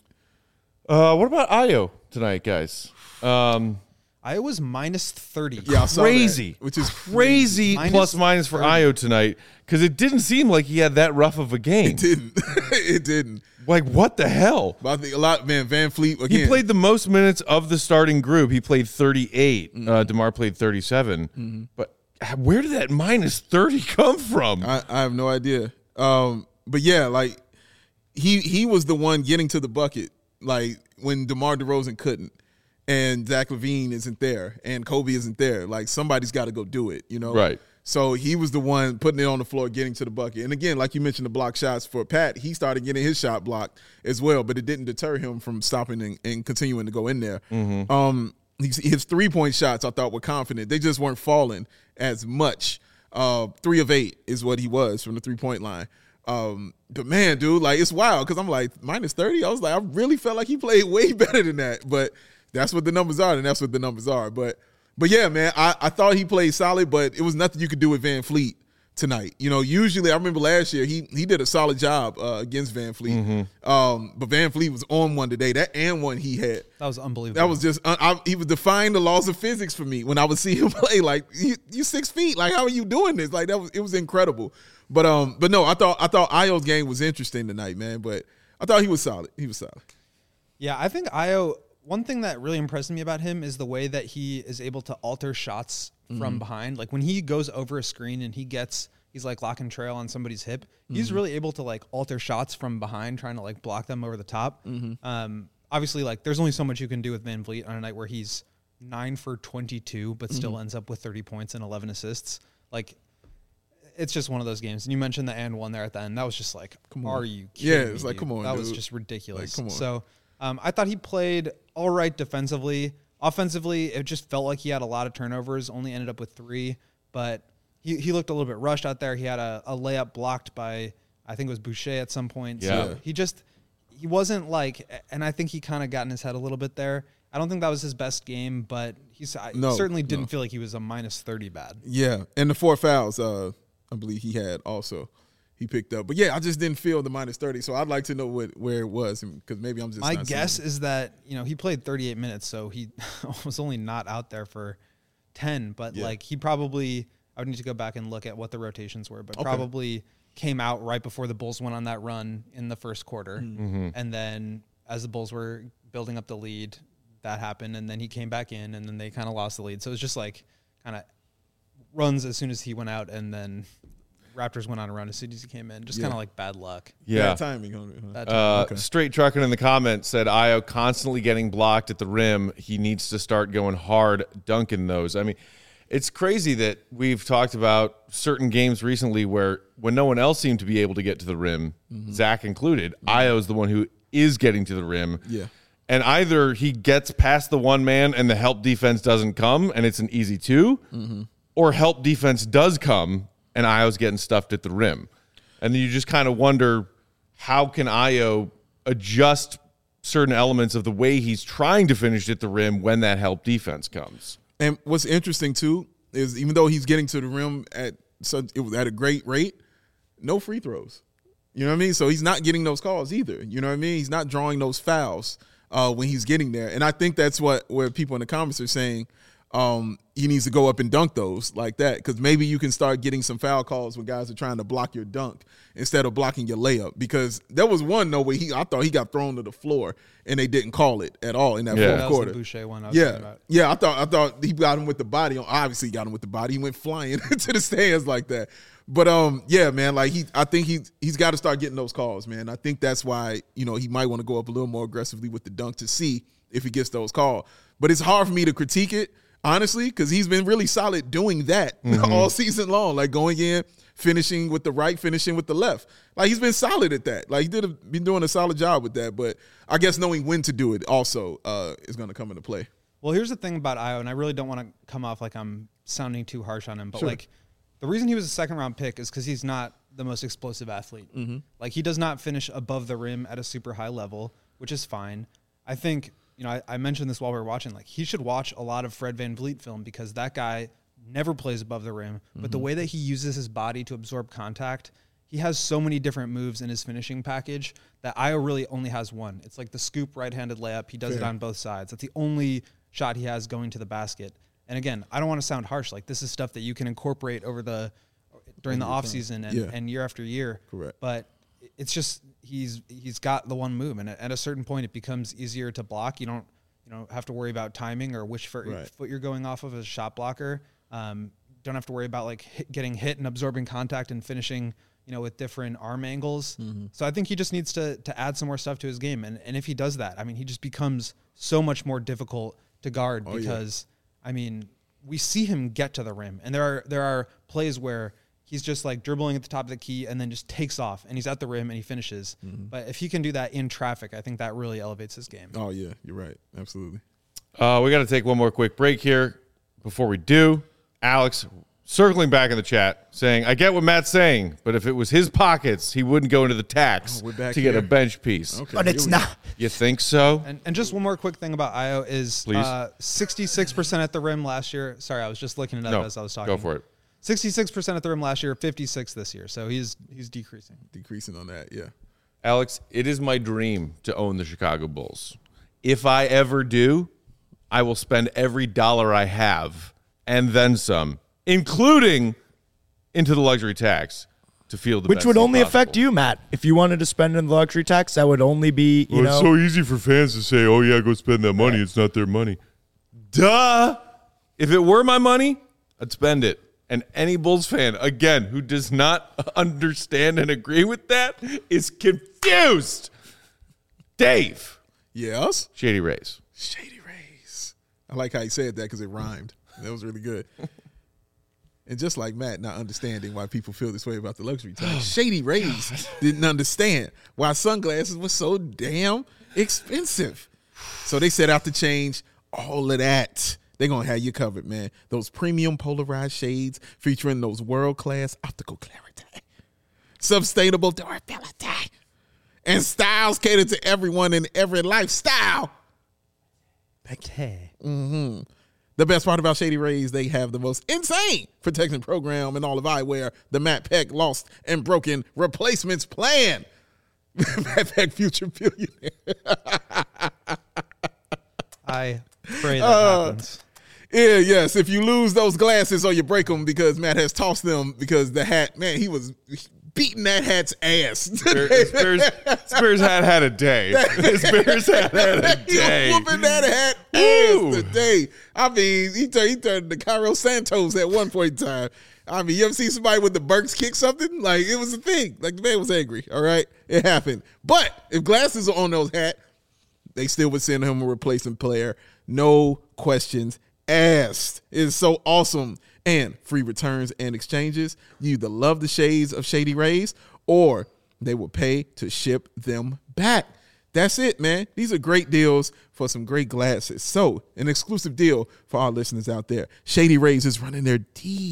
Uh, what about Ayo tonight, guys? Um, Ayo was minus thirty. Yeah, crazy, which is crazy minus plus minus for Ayo tonight, because it didn't seem like he had that rough of a game. It didn't. It didn't. Like, what the hell? But I think a lot, man. Van Fleet again. He played the most minutes of the starting group. He played thirty-eight. Mm-hmm. Uh, DeMar played thirty-seven. Mm-hmm. But where did that minus thirty come from? I, I have no idea. Um, but yeah, like he he was the one getting to the bucket, like when DeMar DeRozan couldn't. And Zach LaVine isn't there, and Kobe isn't there. Like, somebody's got to go do it, you know? Right. So he was the one putting it on the floor, getting to the bucket. And again, like you mentioned, the block shots for Pat, he started getting his shot blocked as well, but it didn't deter him from stopping and, and continuing to go in there. Mm-hmm. Um, his, his three-point shots, I thought, were confident. They just weren't falling as much. Uh, three of eight is what he was from the three-point line. Um, but man, dude, like, it's wild because I'm like, minus thirty? I was like, I really felt like he played way better than that. But that's what the numbers are, and that's what the numbers are. But but yeah, man, I, I thought he played solid, but it was nothing you could do with Van Fleet tonight. You know, usually I remember last year he he did a solid job uh, against Van Fleet. Mm-hmm. Um, but Van Fleet was on one today. That and one he had. That was unbelievable. That was just uh, I, he was defying the laws of physics for me when I would see him play. Like, you, you six feet. Like, how are you doing this? Like, that was it was incredible. But um, but no, I thought I thought Ayo's game was interesting tonight, man. But I thought he was solid. He was solid. Yeah, I think Ayo. One thing that really impressed me about him is the way that he is able to alter shots mm-hmm. from behind. Like, when he goes over a screen and he gets, he's like lock and trail on somebody's hip, mm-hmm. he's really able to like alter shots from behind, trying to like block them over the top. Mm-hmm. Um, obviously, like, there's only so much you can do with Van Vliet on a night where he's nine for twenty-two, but mm-hmm. still ends up with thirty points and eleven assists. Like, it's just one of those games. And you mentioned the and one there at the end. That was just like, are you kidding Yeah, it was me, like, come on, That dude. was just ridiculous. Like, come on. So um, I thought he played all right defensively. Offensively, it just felt like he had a lot of turnovers, only ended up with three. But he, he looked a little bit rushed out there. He had a, a layup blocked by, I think it was Boucher at some point. Yeah. So he just, he wasn't like, and I think he kind of got in his head a little bit there. I don't think that was his best game, but he's I No, certainly didn't no. feel like he was a minus thirty bad. Yeah, and the four fouls, uh, I believe he had also. He picked up. But, yeah, I just didn't feel the minus thirty, so I'd like to know what where it was because maybe I'm just My not guess seeing it. is that, you know, he played thirty-eight minutes, so he was only not out there for ten, but, Yeah. like, he probably – I would need to go back and look at what the rotations were, but Okay. probably came out right before the Bulls went on that run in the first quarter. Mm-hmm. And then as the Bulls were building up the lead, that happened, and then he came back in, and then they kind of lost the lead. So it was just, like, kind of runs as soon as he went out, and then – Raptors went on a run as soon as he came in. Just Yeah. kind of like bad luck. Yeah. Bad timing on it. Huh? Bad Uh, Okay. Straight Trucking in the comments said, Io constantly getting blocked at the rim. He needs to start going hard dunking those. I mean, it's crazy that we've talked about certain games recently where when no one else seemed to be able to get to the rim, Zach included, Io is the one who is getting to the rim. Yeah. And either he gets past the one man and the help defense doesn't come and it's an easy two, or help defense does come and Io's getting stuffed at the rim. And then you just kind of wonder, how can Io adjust certain elements of the way he's trying to finish at the rim when that help defense comes? And what's interesting, too, is even though he's getting to the rim at such, it was at a great rate, no free throws. You know what I mean? So he's not getting those calls either. You know what I mean? He's not drawing those fouls uh, when he's getting there. And I think that's what where people in the comments are saying um, he needs to go up and dunk those like that, because maybe you can start getting some foul calls when guys are trying to block your dunk instead of blocking your layup. Because there was one, no way, he I thought he got thrown to the floor and they didn't call it at all in that Yeah. fourth That was quarter. the Boucher one I was Yeah, talking about. yeah. I thought I thought he got him with the body. Obviously, he got him with the body. He went flying to the stands like that. But um, yeah, man. Like he, I think he's he's got to start getting those calls, man. I think that's why you know he might want to go up a little more aggressively with the dunk to see if he gets those calls. But it's hard for me to critique it honestly because he's been really solid doing that Mm-hmm. all season long, like going in, finishing with the right, finishing with the left. Like he's been solid at that. Like he did a, been doing a solid job with that. But I guess knowing when to do it also uh, is going to come into play. Well, here's the thing about Io, and I really don't want to come off like I'm sounding too harsh on him, but Sure. like the reason he was a second round pick is because he's not the most explosive athlete. Mm-hmm. Like he does not finish above the rim at a super high level, which is fine. I think, you know, I, I mentioned this while we were watching, like he should watch a lot of Fred VanVleet film because that guy never plays above the rim, mm-hmm. but the way that he uses his body to absorb contact, he has so many different moves in his finishing package that Io really only has one. It's like the scoop right-handed layup. He does Fair. it on both sides. That's the only shot he has going to the basket. And again, I don't want to sound harsh. Like this is stuff that you can incorporate over the during the off season and, Yeah. and year after year. Correct. But it's just he's he's got the one move, and at a certain point, it becomes easier to block. You don't you know have to worry about timing or which foot, Right. foot you're going off of as a shot blocker. Um, don't have to worry about like hit, getting hit and absorbing contact and finishing. You know, with different arm angles. Mm-hmm. So I think he just needs to to add some more stuff to his game, and and if he does that, I mean, he just becomes so much more difficult to guard Oh, yeah. because I mean, we see him get to the rim, and there are there are plays where he's just like dribbling at the top of the key and then just takes off, and he's at the rim and he finishes. Mm-hmm. But if he can do that in traffic, I think that really elevates his game. Oh yeah, you're right. Absolutely. Uh, we got to take one more quick break here. Before we do, Alex circling back in the chat saying, I get what Matt's saying, but if it was his pockets, he wouldn't go into the tax Oh, we're back to get a here. bench piece. Okay. But it's here we go. not. You think so? And, and just one more quick thing about Io is Please. uh, sixty-six percent at the rim last year. Sorry, I was just looking it up No, as I was talking. go for it. sixty-six percent at the rim last year, fifty-six this year. So he's he's decreasing. Decreasing on that. Yeah. Alex, it is my dream to own the Chicago Bulls. If I ever do, I will spend every dollar I have and then some, including into the luxury tax, to feel the Which best would team only affect possible. you, Matt. If you wanted to spend in the luxury tax, that would only be, you Well, it's know. so easy for fans to say, oh, yeah, go spend that money. It's not their money. Duh. If it were my money, I'd spend it. And any Bulls fan, again, who does not understand and agree with that is confused. Dave. Yes. Shady Rays. Shady Rays. I like how you said that because it rhymed. That was really good. And just like Matt not understanding why people feel this way about the luxury tax, Shady Rays didn't understand why sunglasses were so damn expensive. So they set out to change all of that. They're going to have you covered, man. Those premium polarized shades featuring those world-class optical clarity, sustainable durability, and styles cater to everyone in every lifestyle. Hey. Mm-hmm. The best part about Shady Rays, they have the most insane protection program in all of eyewear, the Matt Peck Lost and Broken Replacements Plan. Matt Peck, future billionaire. I pray that Uh, happens. Yeah, yes. If you lose those glasses or you break them because Matt has tossed them because the hat, man, he was beating that hat's ass. Spears, Spears, Spears hat had a day. Spears hat had a He day. was whooping that hat Woo. ass today. I mean, he turned, he turned to Cairo Santos at one point in time. I mean, you ever see somebody with the Burks kick something? Like, it was a thing. Like, the man was angry, all right? It happened. But if glasses are on those hats, they still would send him a replacement player. No questions asked. It is so awesome. And free returns and exchanges. You either love the shades of Shady Rays or they will pay to ship them back. That's it, man. These are great deals for some great glasses. So, an exclusive deal for our listeners out there. Shady Rays is running their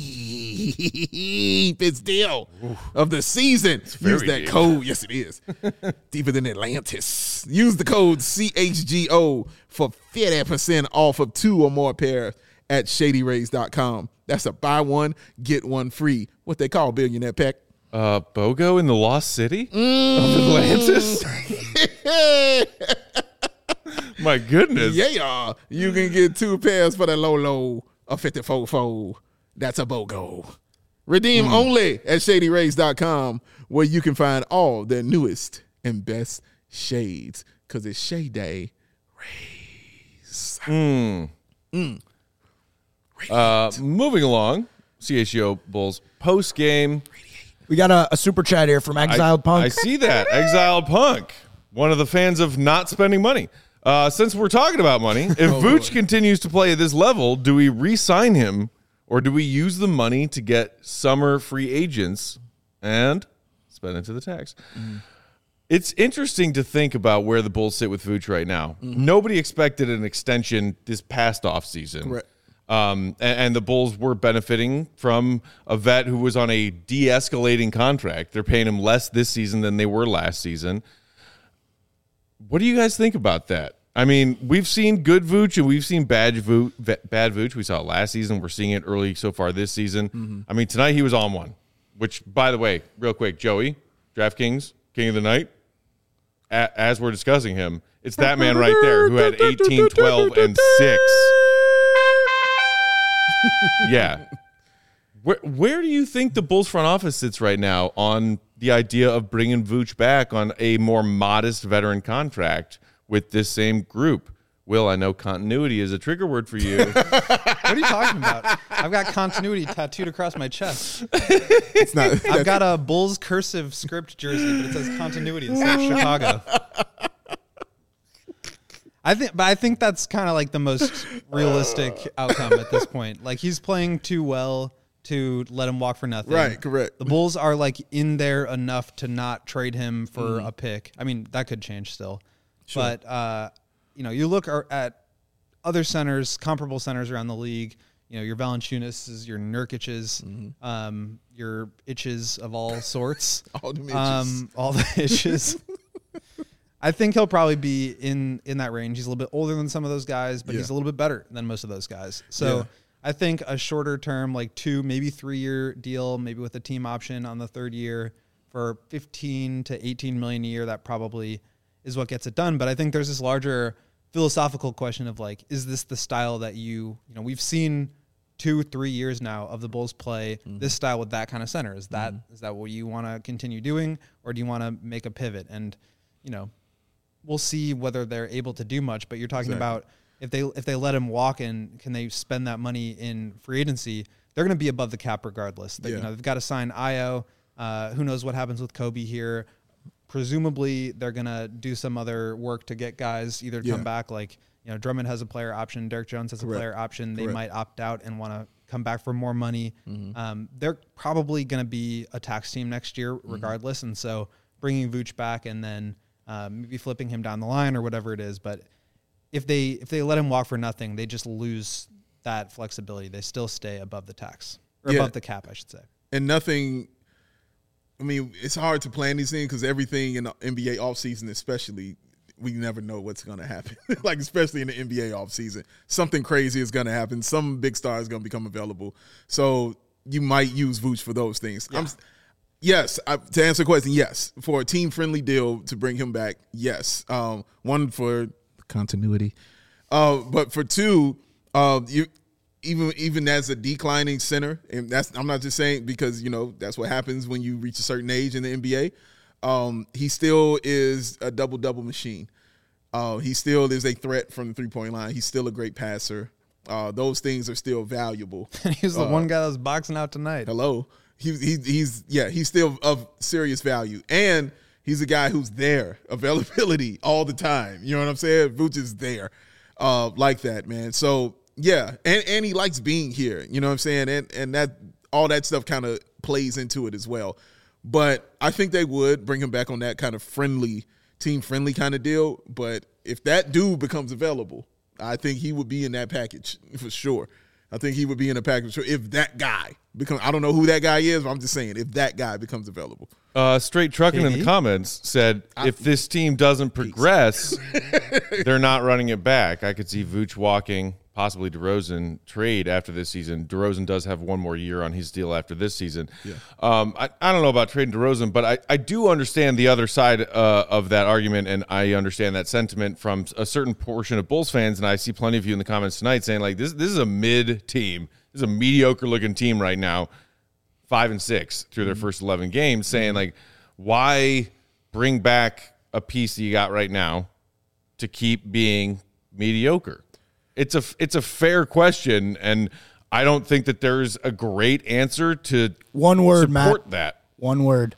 deepest deal Ooh. of the season. Use that deep. code. Yes, it is. Deeper than Atlantis. Use the code C H G O for fifty percent off of two or more pairs at shady rays dot com. That's a buy one, get one free. What they call Billionaire Peck. Uh, BOGO in the Lost City mm. of Atlantis? My goodness. Yeah, you can get two pairs for the low, low of fifty-four fold. That's a BOGO. Redeem mm. only at shady rays dot com, where you can find all their newest and best shades, because it's Shade Day Rays. Mm. Mm. Uh, moving along, C H G O Bulls post game. We got a, a super chat here from Exiled I, Punk. I see that. Exiled Punk, one of the fans of not spending money. Uh, since we're talking about money, if oh, Vooch Lord. continues to play at this level, do we re-sign him or do we use the money to get summer free agents and spend it to the tax? Mm. It's interesting to think about where the Bulls sit with Vooch right now. Mm-hmm. Nobody expected an extension this past offseason. Correct. Um, and, and the Bulls were benefiting from a vet who was on a de-escalating contract. They're paying him less this season than they were last season. What do you guys think about that? I mean, we've seen good Vooch and we've seen bad Vooch. Bad Vooch. We saw it last season. We're seeing it early so far this season. Mm-hmm. I mean, tonight he was on one, which, by the way, real quick, Joey, DraftKings, King of the Night, a- as we're discussing him, it's that man right there who had eighteen, twelve, and six. Yeah. Where where do you think the Bulls front office sits right now on the idea of bringing Vooch back on a more modest veteran contract with this same group? Will, I know continuity is a trigger word for you. What are you talking about? I've got continuity tattooed across my chest. It's not. I've got a Bulls cursive script jersey, but it says continuity instead of Chicago. I think, but I think that's kind of like the most realistic outcome at this point. Like, he's playing too well to let him walk for nothing. Right, correct. The Bulls are like in there enough to not trade him for mm. a pick. I mean, that could change still. Sure. But, uh, you know, you look at other centers, comparable centers around the league, you know, your Valanciunas, your Nurkic's, mm-hmm. um, your itches of all sorts. all the itches. Um, all the itches. I think he'll probably be in, in that range. He's a little bit older than some of those guys, but yeah. he's a little bit better than most of those guys. So yeah. I think a shorter term, like two, maybe three year deal, maybe with a team option on the third year for fifteen to eighteen million a year, that probably is what gets it done. But I think there's this larger philosophical question of like, is this the style that you, you know, we've seen two, three years now of the Bulls play mm-hmm. this style with that kind of center. Is that, mm-hmm. is that what you want to continue doing, or do you want to make a pivot? And, you know, we'll see whether they're able to do much, but you're talking exactly. about if they if they let him walk and can they spend that money in free agency, they're going to be above the cap regardless. They, yeah. You know, they've got to sign Ayo. Uh, who knows what happens with Kobe here? Presumably, they're going to do some other work to get guys either yeah. come back. Like, you know, Drummond has a player option. Derek Jones has Correct. a player option. They Correct. might opt out and want to come back for more money. Mm-hmm. Um, they're probably going to be a tax team next year regardless. Mm-hmm. And so bringing Vooch back and then Uh, maybe flipping him down the line or whatever it is. But if they if they let him walk for nothing, they just lose that flexibility. They still stay above the tax or yeah. above the cap, I should say. And nothing I mean, it's hard to plan these things because everything in the N B A offseason, especially, we never know what's going to happen. Like, especially in the N B A offseason. Something crazy is going to happen. Some big star is going to become available. So you might use Vooch for those things. Yeah. I'm, yes, I, to answer the question, yes. For a team-friendly deal to bring him back, yes. Um, one, for continuity. Uh, but for two, uh, you even even as a declining center, and that's I'm not just saying because, you know, that's what happens when you reach a certain age in the N B A. Um, he still is a double-double machine. Uh, he still is a threat from the three-point line. He's still a great passer. Uh, those things are still valuable. And he's the uh, one guy that's boxing out tonight. Hello. He, he, he's, yeah, he's still of serious value. And he's a guy who's there, availability all the time. You know what I'm saying? Vooch is there uh, like that, man. So, yeah, and, and he likes being here. You know what I'm saying? And, and that all that stuff kind of plays into it as well. But I think they would bring him back on that kind of friendly, team-friendly kind of deal. But if that dude becomes available, I think he would be in that package for sure. I think he would be in a package for if that guy becomes – I don't know who that guy is, but I'm just saying if that guy becomes available. Uh, Straight Trucking in the Maybe. comments said I- if this team doesn't progress, they're not running it back. I could see Vooch walking, possibly DeRozan trade after this season. DeRozan does have one more year on his deal after this season. Yeah. Um, I, I don't know about trading DeRozan, but I, I do understand the other side uh, of that argument, and I understand that sentiment from a certain portion of Bulls fans, and I see plenty of you in the comments tonight saying, like, this, this is a mid team. This is a mediocre-looking team right now, five and six through their first eleven games, saying, like, why bring back a piece that you got right now to keep being mediocre? It's a it's a fair question, and I don't think that there's a great answer to One word, support Matt. that. One word.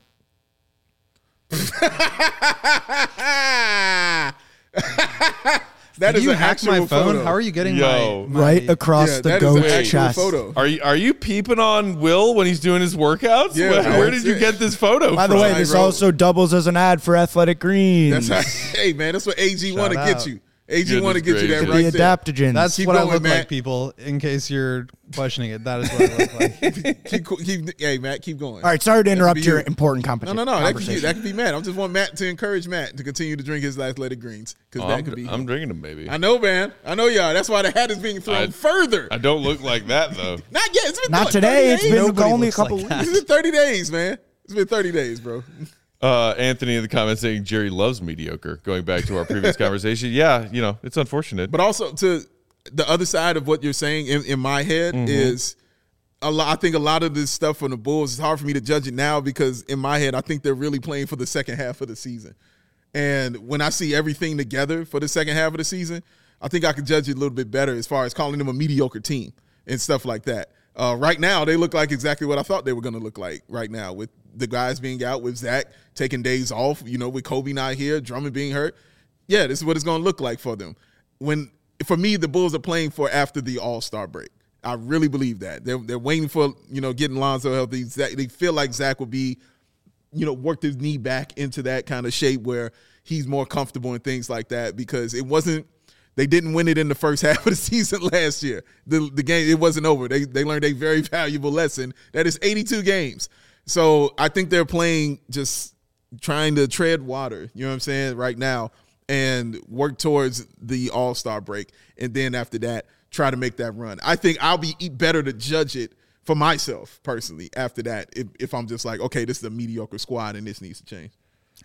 That Did is you an hack actual my phone? photo. How are you getting Yo. my, my Right across Yeah, the that is an goat's actual chest. photo. Are you are you peeping on Will when he's doing his workouts? Yeah, where, man. where did you get this photo By the from? way, Right, this bro. also doubles as an ad for Athletic Greens. That's how, hey, man, that's what A G want to Shout get out. you. A G want to Goodness get you that gracious. right the there. adaptogens. That's Keep what I going, look Matt. like, people, in case you're questioning it. That is what I look like. keep, keep, hey, Matt, keep going. All right, sorry to That could interrupt be your you. important No, competition. no, no. That could, be, that could be Matt. I just want Matt to encourage Matt to continue to drink his Athletic Greens because Oh, that I'm, could be. I'm drinking them, baby. I know, man. I know, y'all. That's why the hat is being thrown I- further. I don't look like that though. Not yet. It's been Not what, today. thirty It's days? been Nobody only a looks couple like weeks. that. It's been thirty days, man. It's been thirty days, bro. Uh, Anthony in the comments saying Jerry loves mediocre. Going back to our previous conversation, yeah, you know it's unfortunate. But also to the other side of what you're saying in, in my head Mm-hmm. is a lot. I think a lot of this stuff from the Bulls, it's hard for me to judge it now because in my head, I think they're really playing for the second half of the season. And when I see everything together for the second half of the season, I think I can judge it a little bit better as far as calling them a mediocre team and stuff like that. Uh, right now, they look like exactly what I thought they were going to look like right now with the guys being out, with Zach taking days off, you know, with Kobe not here, Drummond being hurt. Yeah, this is what it's going to look like for them. When, for me, the Bulls are playing for after the All-Star break. I really believe that. They're, they're waiting for, you know, getting Lonzo healthy. Zach, they feel like Zach will be, you know, worked his knee back into that kind of shape where he's more comfortable and things like that because it wasn't, they didn't win it in the first half of the season last year. The the game, it wasn't over. They they learned a very valuable lesson. That is eighty-two games. So I think they're playing just trying to tread water, you know what I'm saying, right now, and work towards the All-Star break. And then after that, try to make that run. I think I'll be better to judge it for myself personally after that if, if I'm just like, okay, this is a mediocre squad and this needs to change.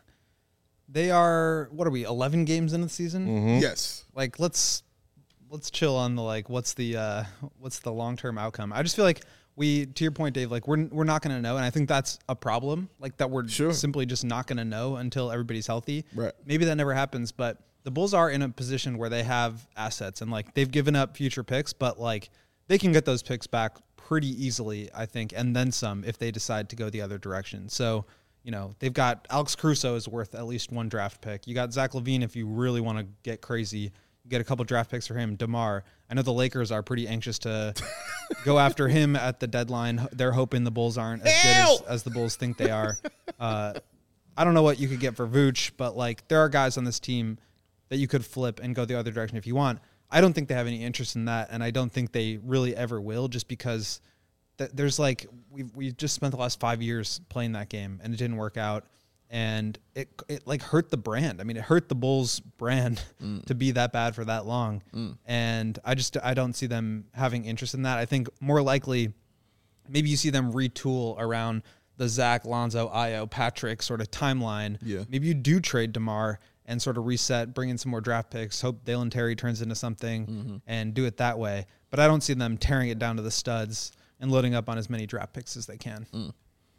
They are, what are we, eleven games into the season? Mm-hmm. Yes. Like, let's let's chill on the, like, what's the uh, what's the long-term outcome? I just feel like we, to your point, Dave, like, we're we're not going to know, and I think that's a problem, like, that we're Sure. simply just not going to know until everybody's healthy. Right. Maybe that never happens, but the Bulls are in a position where they have assets, and, like, they've given up future picks, but, like, they can get those picks back pretty easily, I think, and then some if they decide to go the other direction. So, you know, they've got Alex Caruso is worth at least one draft pick. You got Zach LaVine if you really want to get crazy. You get a couple draft picks for him. DeMar. I know the Lakers are pretty anxious to go after him at the deadline. They're hoping the Bulls aren't as good as, as the Bulls think they are. Uh, I don't know what you could get for Vooch, but, like, there are guys on this team that you could flip and go the other direction if you want. I don't think they have any interest in that, and I don't think they really ever will just because th- there's like we we just spent the last five years playing that game and it didn't work out, and it it like hurt the brand. I mean, it hurt the Bulls brand mm. to be that bad for that long, mm. and I just I don't see them having interest in that. I think more likely, maybe you see them retool around the Zach, Lonzo, Ayo, Patrick sort of timeline. Yeah. Maybe you do trade DeMar and sort of reset, bring in some more draft picks, hope Dalen Terry turns into something, mm-hmm. and do it that way. But I don't see them tearing it down to the studs and loading up on as many draft picks as they can. Mm.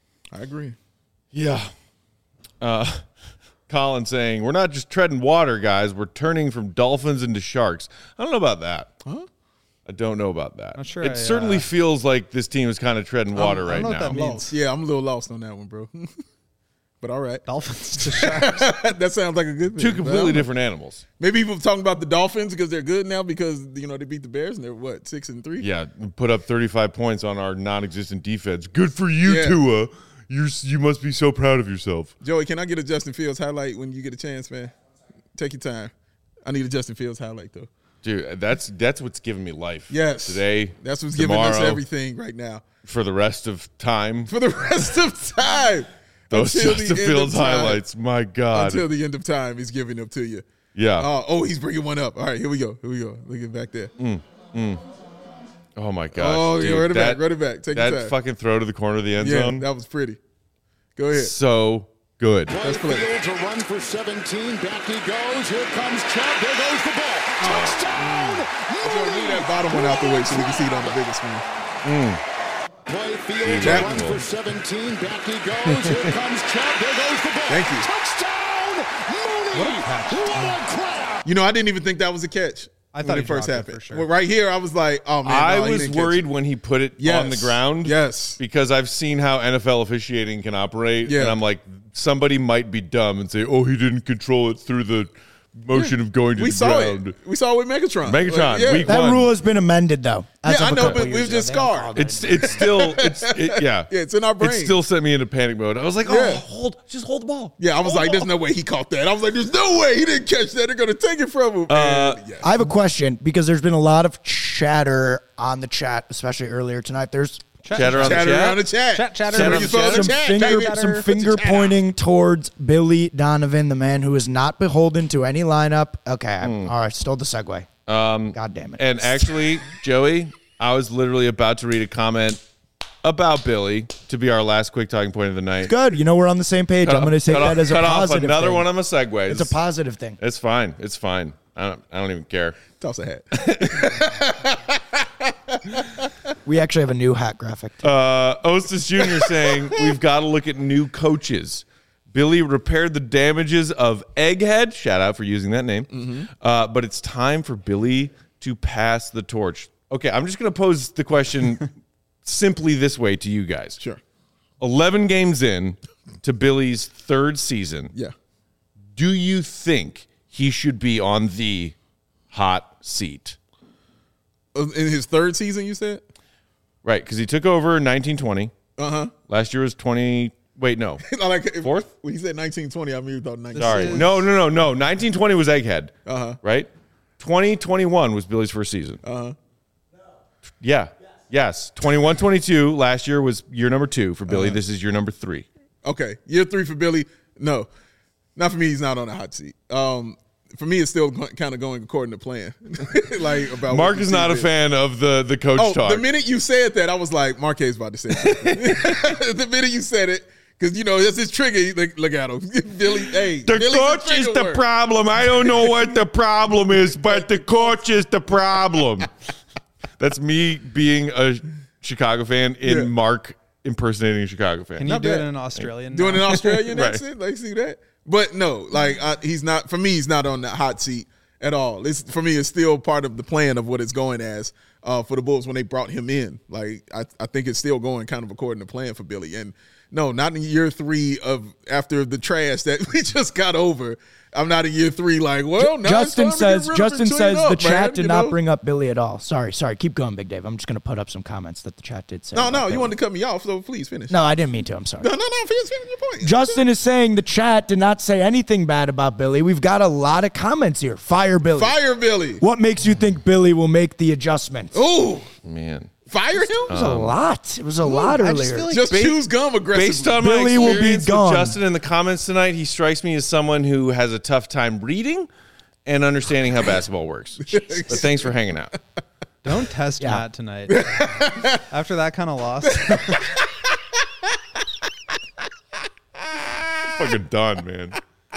I agree. Yeah. Uh, Colin saying, we're not just treading water, guys. We're turning from dolphins into sharks. I don't know about that. Huh? I don't know about that. Not sure it I, certainly uh, feels like this team is kind of treading water I right don't know now. what that means. Lost. Yeah, I'm a little lost on that one, bro. But all right. Dolphins to sharks. That sounds like a good thing. Two completely different animals. Maybe people talking about the Dolphins because they're good now because, you know, they beat the Bears and they're, what, six and three? Yeah, put up thirty-five points on our non-existent defense. Good for you, Yeah. Tua. You you must be so proud of yourself. Joey, can I get a Justin Fields highlight when you get a chance, man? Take your time. I need a Justin Fields highlight, though. Dude, that's that's what's giving me life. Yes. Today, That's what's tomorrow, giving us everything right now. for the rest of time. For the rest of time. Those Until the Justin end of Fields time. highlights, my God. Until the end of time, he's giving them to you. yeah. Uh, oh, he's bringing one up. All right, here we go. Here we go. Look at back there. Mm, mm. Oh, my gosh. Oh, dude, yeah, run it that, back. Run it back. Take That your time. fucking throw to the corner of the end Yeah, zone. that was pretty. Go ahead. So good. Let's play. Fields a run for seventeen. Back he goes. Here comes Chubb. There goes the ball. Touchdown! So move that bottom one out the way so we can see it on the bigger screen. Mm. Play Fields That- a run for seventeen. Back he goes. Here comes Chubb. There goes the ball. Thank you. Touchdown! Mooney! What a catch. What a grab! You know, I didn't even think that was a catch. I thought when he it first dropped it happened. for sure. Well, right here, I was like, oh, man. I no, he was didn't catch worried it. when he put it Yes. on the ground. Yes. Because I've seen how N F L officiating can operate. Yeah. And I'm like, somebody might be dumb and say, oh, he didn't control it through the motion of going to We the saw ground. it. We saw it with Megatron. Megatron, Like, yeah. week That one. rule has been amended, though. as Yeah, of I a know, couple but years we've ago. just They haven't scarred. called it. It's it's still it's it, yeah Yeah, it's in our brain. It still sent me into panic mode. I was like, oh, Yeah. hold, just hold the ball. Yeah, I was Hold like, the there's ball. no way he caught that. I was like, there's no way he didn't catch that. They're going to take it from him. Uh, And, yeah. I have a question because there's been a lot of chatter on the chat, especially earlier tonight. There's Chatter on the Chatter chat. around the chat. Chat, chatter Chatter around you the saw chat. the some chat, finger, baby. some Put your finger chat out. pointing towards Billy Donovan, the man who is not beholden to any lineup. Okay, I'm, all right, stole the segue. Um, God damn it. And actually, Joey, I was literally about to read a comment about Billy to be our last quick talking point of the night. Good. You know, we're on the same page. Cut I'm going to off- take cut that off- as a cut positive off another thing. one of my segues. It's a positive thing. It's fine. It's fine. I don't. I don't even care. Toss a hat. We actually have a new hat graphic. Uh, Ostis Junior saying we've got to look at new coaches. Billy repaired the damages of Egghead. Shout out for using that name. Mm-hmm. Uh, but it's time for Billy to pass the torch. Okay, I'm just going to pose the question simply this way to you guys. Sure. eleven games in to Billy's third season. Yeah. Do you think he should be on the hot seat? Uh, In his third season, you said? Right, because he took over nineteen twenty. Uh-huh. Last year was twenty. Wait, no. I like if, Fourth? When he said nineteen twenty, I mean, thought nineteen. Sorry. No, no, no, no. nineteen twenty was Egghead. Uh-huh. Right? twenty twenty-one was Billy's first season. Uh-huh. Yeah. Yes. twenty-one twenty-two last year was year number two for Billy. This is year number three. Okay. Year three for Billy. No. Not for me. He's not on the hot seat. Um, for me, it's still kind of going according to plan. like about Mark what is the not a team fan of the, the coach Oh, talk. the minute you said that, I was like, Marquez about to say something. The minute you said it, because, you know, that's his trigger. Look, look at him. Billy, hey. The Billy's coach is trigger the word. problem. I don't know what the problem is, but the coach is the problem. That's me being a Chicago fan in Yeah. Mark impersonating a Chicago fan. Can you Not do bad. it in Australian? Doing now? an Australian Right. accent? Like, see that? But no, like, I, he's not, for me, he's not on the hot seat at all. It's, for me, it's still part of the plan of what it's going as uh, for the Bulls when they brought him in. Like, I, I think it's still going kind of according to plan for Billy. And no, not in year three of after the trash that we just got over. I'm not in year three like, well, now Justin it's time to says get rid of Justin and clean says up, the chat man, did you not know? bring up Billy at all. Sorry, sorry. Keep going, Big Dave. I'm just going to put up some comments that the chat did say. No, about no, Billy. you wanted to cut me off, so please finish. No, I didn't mean to. I'm sorry. no, no, no finish, finish your point. Justin is saying the chat did not say anything bad about Billy. We've got a lot of comments here. Fire Billy. Fire Billy. What makes you think Billy will make the adjustments? Ooh. Man. Fire him? It was a lot. It was a lot I just earlier. feel like Just ba- choose gum aggressively. Based on Billy my will be experience with gone. Justin in the comments tonight, he strikes me as someone who has a tough time reading and understanding how basketball works. But thanks for hanging out. Don't test Yeah. Matt tonight. After that kind of loss. Fucking done, man.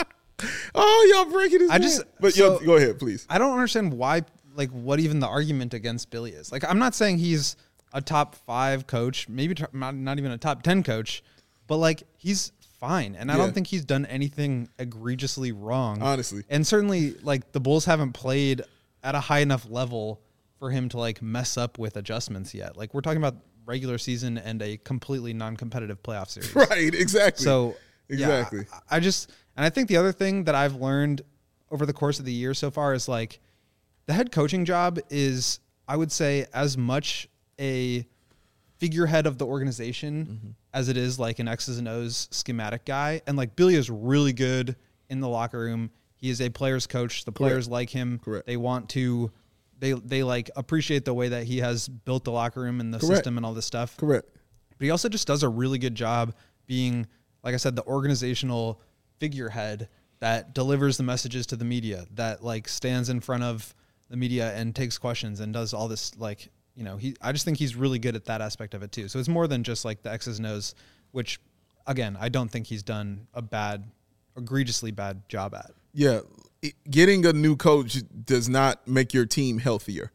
Oh, y'all breaking his I just- neck. But so- yo, go ahead, please. I don't understand why, like, what even the argument against Billy is. Like, I'm not saying he's a top five coach, maybe t- not, not even a top ten coach, but, like, he's fine. And I Yeah. don't think he's done anything egregiously wrong. Honestly. And certainly, like, the Bulls haven't played at a high enough level for him to, like, mess up with adjustments yet. Like, we're talking about regular season and a completely non-competitive playoff series. Right, exactly. So yeah, exactly. I, I just and I think the other thing that I've learned over the course of the year so far is like the head coaching job is, I would say, as much a figurehead of the organization Mm-hmm. as it is like an X's and O's schematic guy. And like Billy is really good in the locker room. He is a player's coach. The players like him. Correct. They want to they they like appreciate the way that he has built the locker room and the Correct. system and all this stuff. Correct. But he also just does a really good job being, like I said, the organizational figurehead that delivers the messages to the media, that like stands in front of the media and takes questions and does all this, like, you know, he, I just think he's really good at that aspect of it too. So it's more than just like the X's and O's, which again, I don't think he's done a bad, egregiously bad job at. Yeah, it- getting a new coach does not make your team healthier.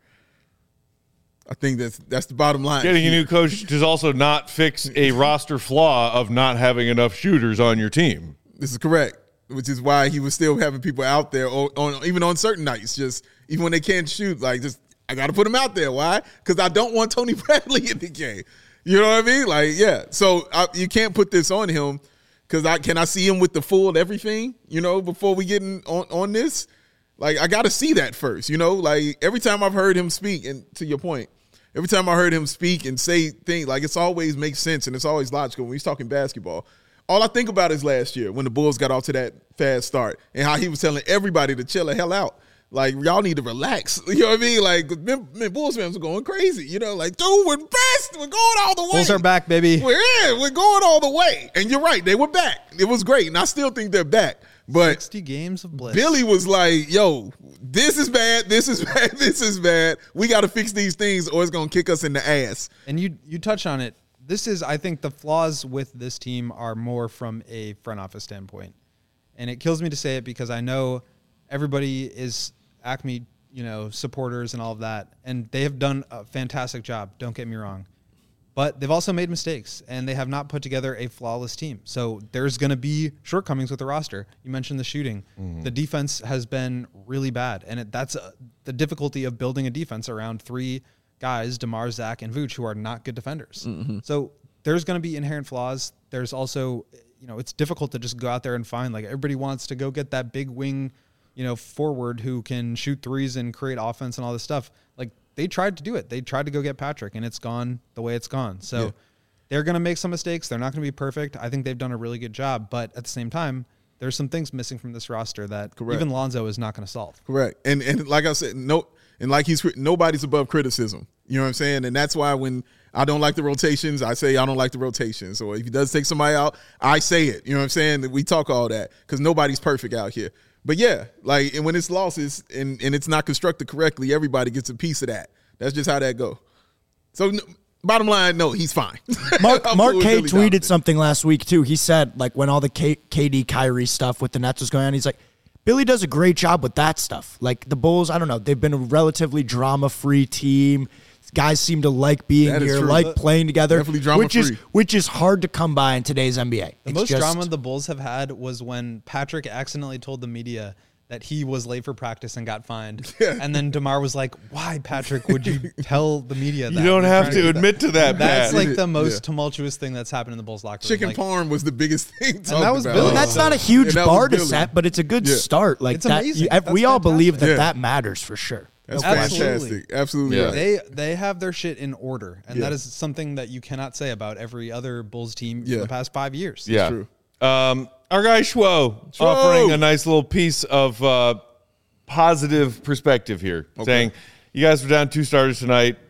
I think that's that's the bottom line. Getting a new coach does also not fix a roster flaw of not having enough shooters on your team. This is correct, which is why he was still having people out there on, on even on certain nights, just even when they can't shoot, like just I got to put them out there. Why? Because I don't want Tony Bradley in the game. You know what I mean? Like, yeah. So I, you can't put this on him because I can I see him with the full everything. You know, before we get in on on this, like I got to see that first. You know, like every time I've heard him speak, and to your point. Every time I heard him speak and say things, like it's always makes sense and it's always logical when he's talking basketball. All I think about is last year when the Bulls got off to that fast start and how he was telling everybody to chill the hell out. Like, y'all need to relax. You know what I mean? Like, man, man, Bulls fans were going crazy. You know, like, dude, we're best. We're going all the way. Bulls are back, baby. We're in. We're going all the way. And you're right. They were back. It was great. And I still think they're back. But sixty games of bliss. Billy was like, yo, this is bad, this is bad, this is bad. We got to fix these things or it's going to kick us in the ass. And you you touch on it. This is, I think, the flaws with this team are more from a front office standpoint. And it kills me to say it because I know everybody is Acme, you know, supporters and all of that. And they have done a fantastic job. Don't get me wrong. But they've also made mistakes, and they have not put together a flawless team. So there's going to be shortcomings with the roster. You mentioned the shooting. Mm-hmm. The defense has been really bad, and it, that's uh, the difficulty of building a defense around three guys, DeMar, Zach, and Vooch, who are not good defenders. Mm-hmm. So there's going to be inherent flaws. There's also, you know, it's difficult to just go out there and find, like, everybody wants to go get that big wing, you know, forward who can shoot threes and create offense and all this stuff. Like, they tried to do it. They tried to go get Patrick, and it's gone the way it's gone. So yeah. They're going to make some mistakes. They're not going to be perfect. I think they've done a really good job. But at the same time, there's some things missing from this roster that Correct. even Lonzo is not going to solve. Correct. And and like I said, no, and like he's nobody's above criticism. You know what I'm saying? And that's why when I don't like the rotations, I say I don't like the rotations. Or if he does take somebody out, I say it. You know what I'm saying? We talk all that because nobody's perfect out here. But yeah, like, and when it's losses and, and it's not constructed correctly, everybody gets a piece of that. That's just how that go. So, no, bottom line, no, he's fine. Mark, Mark K really tweeted dominant. something last week, too. He said, like, when all the K- KD Kyrie stuff with the Nets was going on, he's like, Billy does a great job with that stuff. Like, the Bulls, I don't know, they've been a relatively drama-free team. Guys seem to like being That is here, true. like playing together, Definitely drama which is free. which is hard to come by in today's N B A. The It's most just- drama the Bulls have had was when Patrick accidentally told the media that he was late for practice and got fined. Yeah. And then DeMar was like, why, Patrick, would you tell the media that? You don't You're have trying to do admit to that, That's Pat. like the most Yeah. tumultuous thing that's happened in the Bulls locker room. Chicken like, parm was the biggest thing. And that was talked Billy. about. That's not a huge And that bar was to Billy. set, but it's a good Yeah. start. Like It's that, amazing. you- That's we all believe that fantastic. that matters for sure. That's Absolutely. fantastic. Absolutely. Yeah. Right. They they have their shit in order, and Yeah. that is something that you cannot say about every other Bulls team Yeah. for the past five years. Yeah. true. Um, our guy Schwo offering a nice little piece of uh, positive perspective here, saying, you guys were down two starters tonight.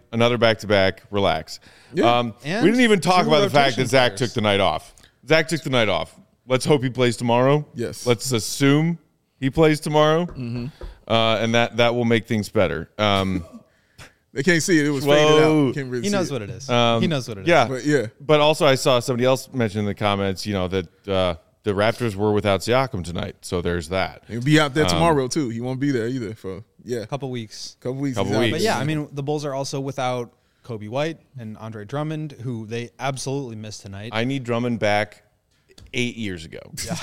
another back-to-back. Relax. Yeah. Um, we And didn't even talk two about the fact rotation that Zach players. took the night off. Zach took the night off. Let's hope he plays tomorrow. Yes. Let's assume he plays tomorrow, mm-hmm. uh, and that, that will make things better. Um, They can't see it. It was Whoa. faded out. Can't really He see knows it. what it is. Um, he knows what it is. yeah. But yeah. But also, I saw somebody else mention in the comments, you know, that uh, the Raptors were without Siakam tonight. So there's that. He'll be out there Um, tomorrow too. He won't be there either for yeah, A couple weeks. couple weeks. Couple he's out weeks. there. But yeah, I mean, the Bulls are also without Kobe White and Andre Drummond, who they absolutely missed tonight. I need Drummond back eight years ago.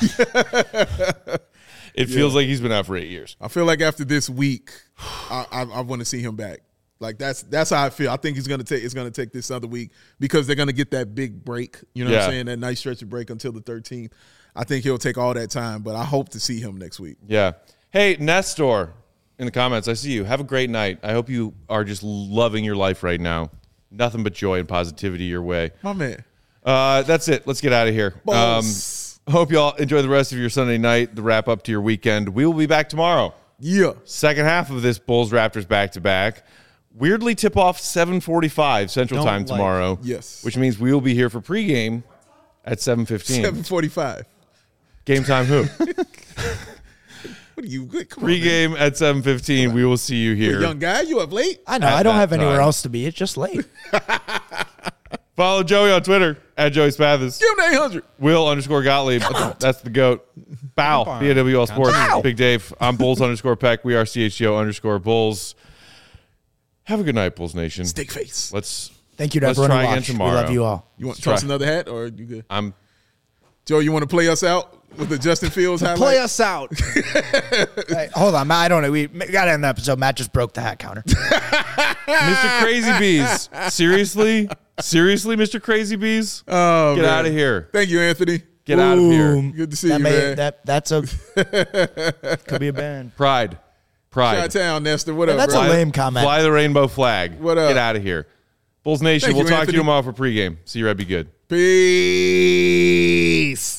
It feels like he's been out for eight years. I feel like after this week, I, I, I want to see him back. Like that's that's how I feel. I think he's gonna take it's gonna take this other week because they're gonna get that big break. You know what Yeah. I'm saying? That nice stretch of break until the thirteenth. I think he'll take all that time, but I hope to see him next week. Yeah. Hey, Nestor, in the comments, I see you. Have a great night. I hope you are just loving your life right now. Nothing but joy and positivity your way. My man. Uh, that's it. Let's get out of here. Um, Boss. hope you all enjoy the rest of your Sunday night, the wrap up to your weekend. We will be back tomorrow. Yeah. Second half of this Bulls Raptors back to back. Weirdly tip off seven forty-five Central Don't Time like- tomorrow. Yes. Which means we will be here for pregame at seven fifteen. Seven forty-five. Game time who? What are you? Come on, man. Pregame at seven fifteen. We will see you You a here. young guy, you up late? I know. At I don't that have anywhere time. else to be. It's just late. Follow Joey on Twitter at Joey Spathis. Give him the eight hundred. Will underscore Gottlieb. That's the GOAT. Bow. Come on. B A W L Sports. Bow. Big Dave. I'm Bulls underscore Peck. We are C H G O underscore Bulls. Have a good night, Bulls Nation. Stick face. Let's. Thank you to Let's everyone try who again watched. We tomorrow. love you all. You want to Try. toss another hat or you good? I'm. Joe, you want to play us out with the Justin Fields highlight? Play us out. Hey, hold on, Matt. I don't know. We got to end the episode. Matt just broke the hat counter. Mister Crazy Bees. Seriously? Seriously, Mister Crazy Bees? Oh, Get man. out of here. Thank you, Anthony. Get out of here. Boom. Good to see that you, may, man. That that's a could be a band. Pride. Pride. Chi-town, Nestor. What up, That's bro? a lame comment. Fly the rainbow flag. What up? Get out of here. Bulls Nation, Thank we'll you, talk to Anthony. you tomorrow for pregame. See you, Red. Be good. Peace.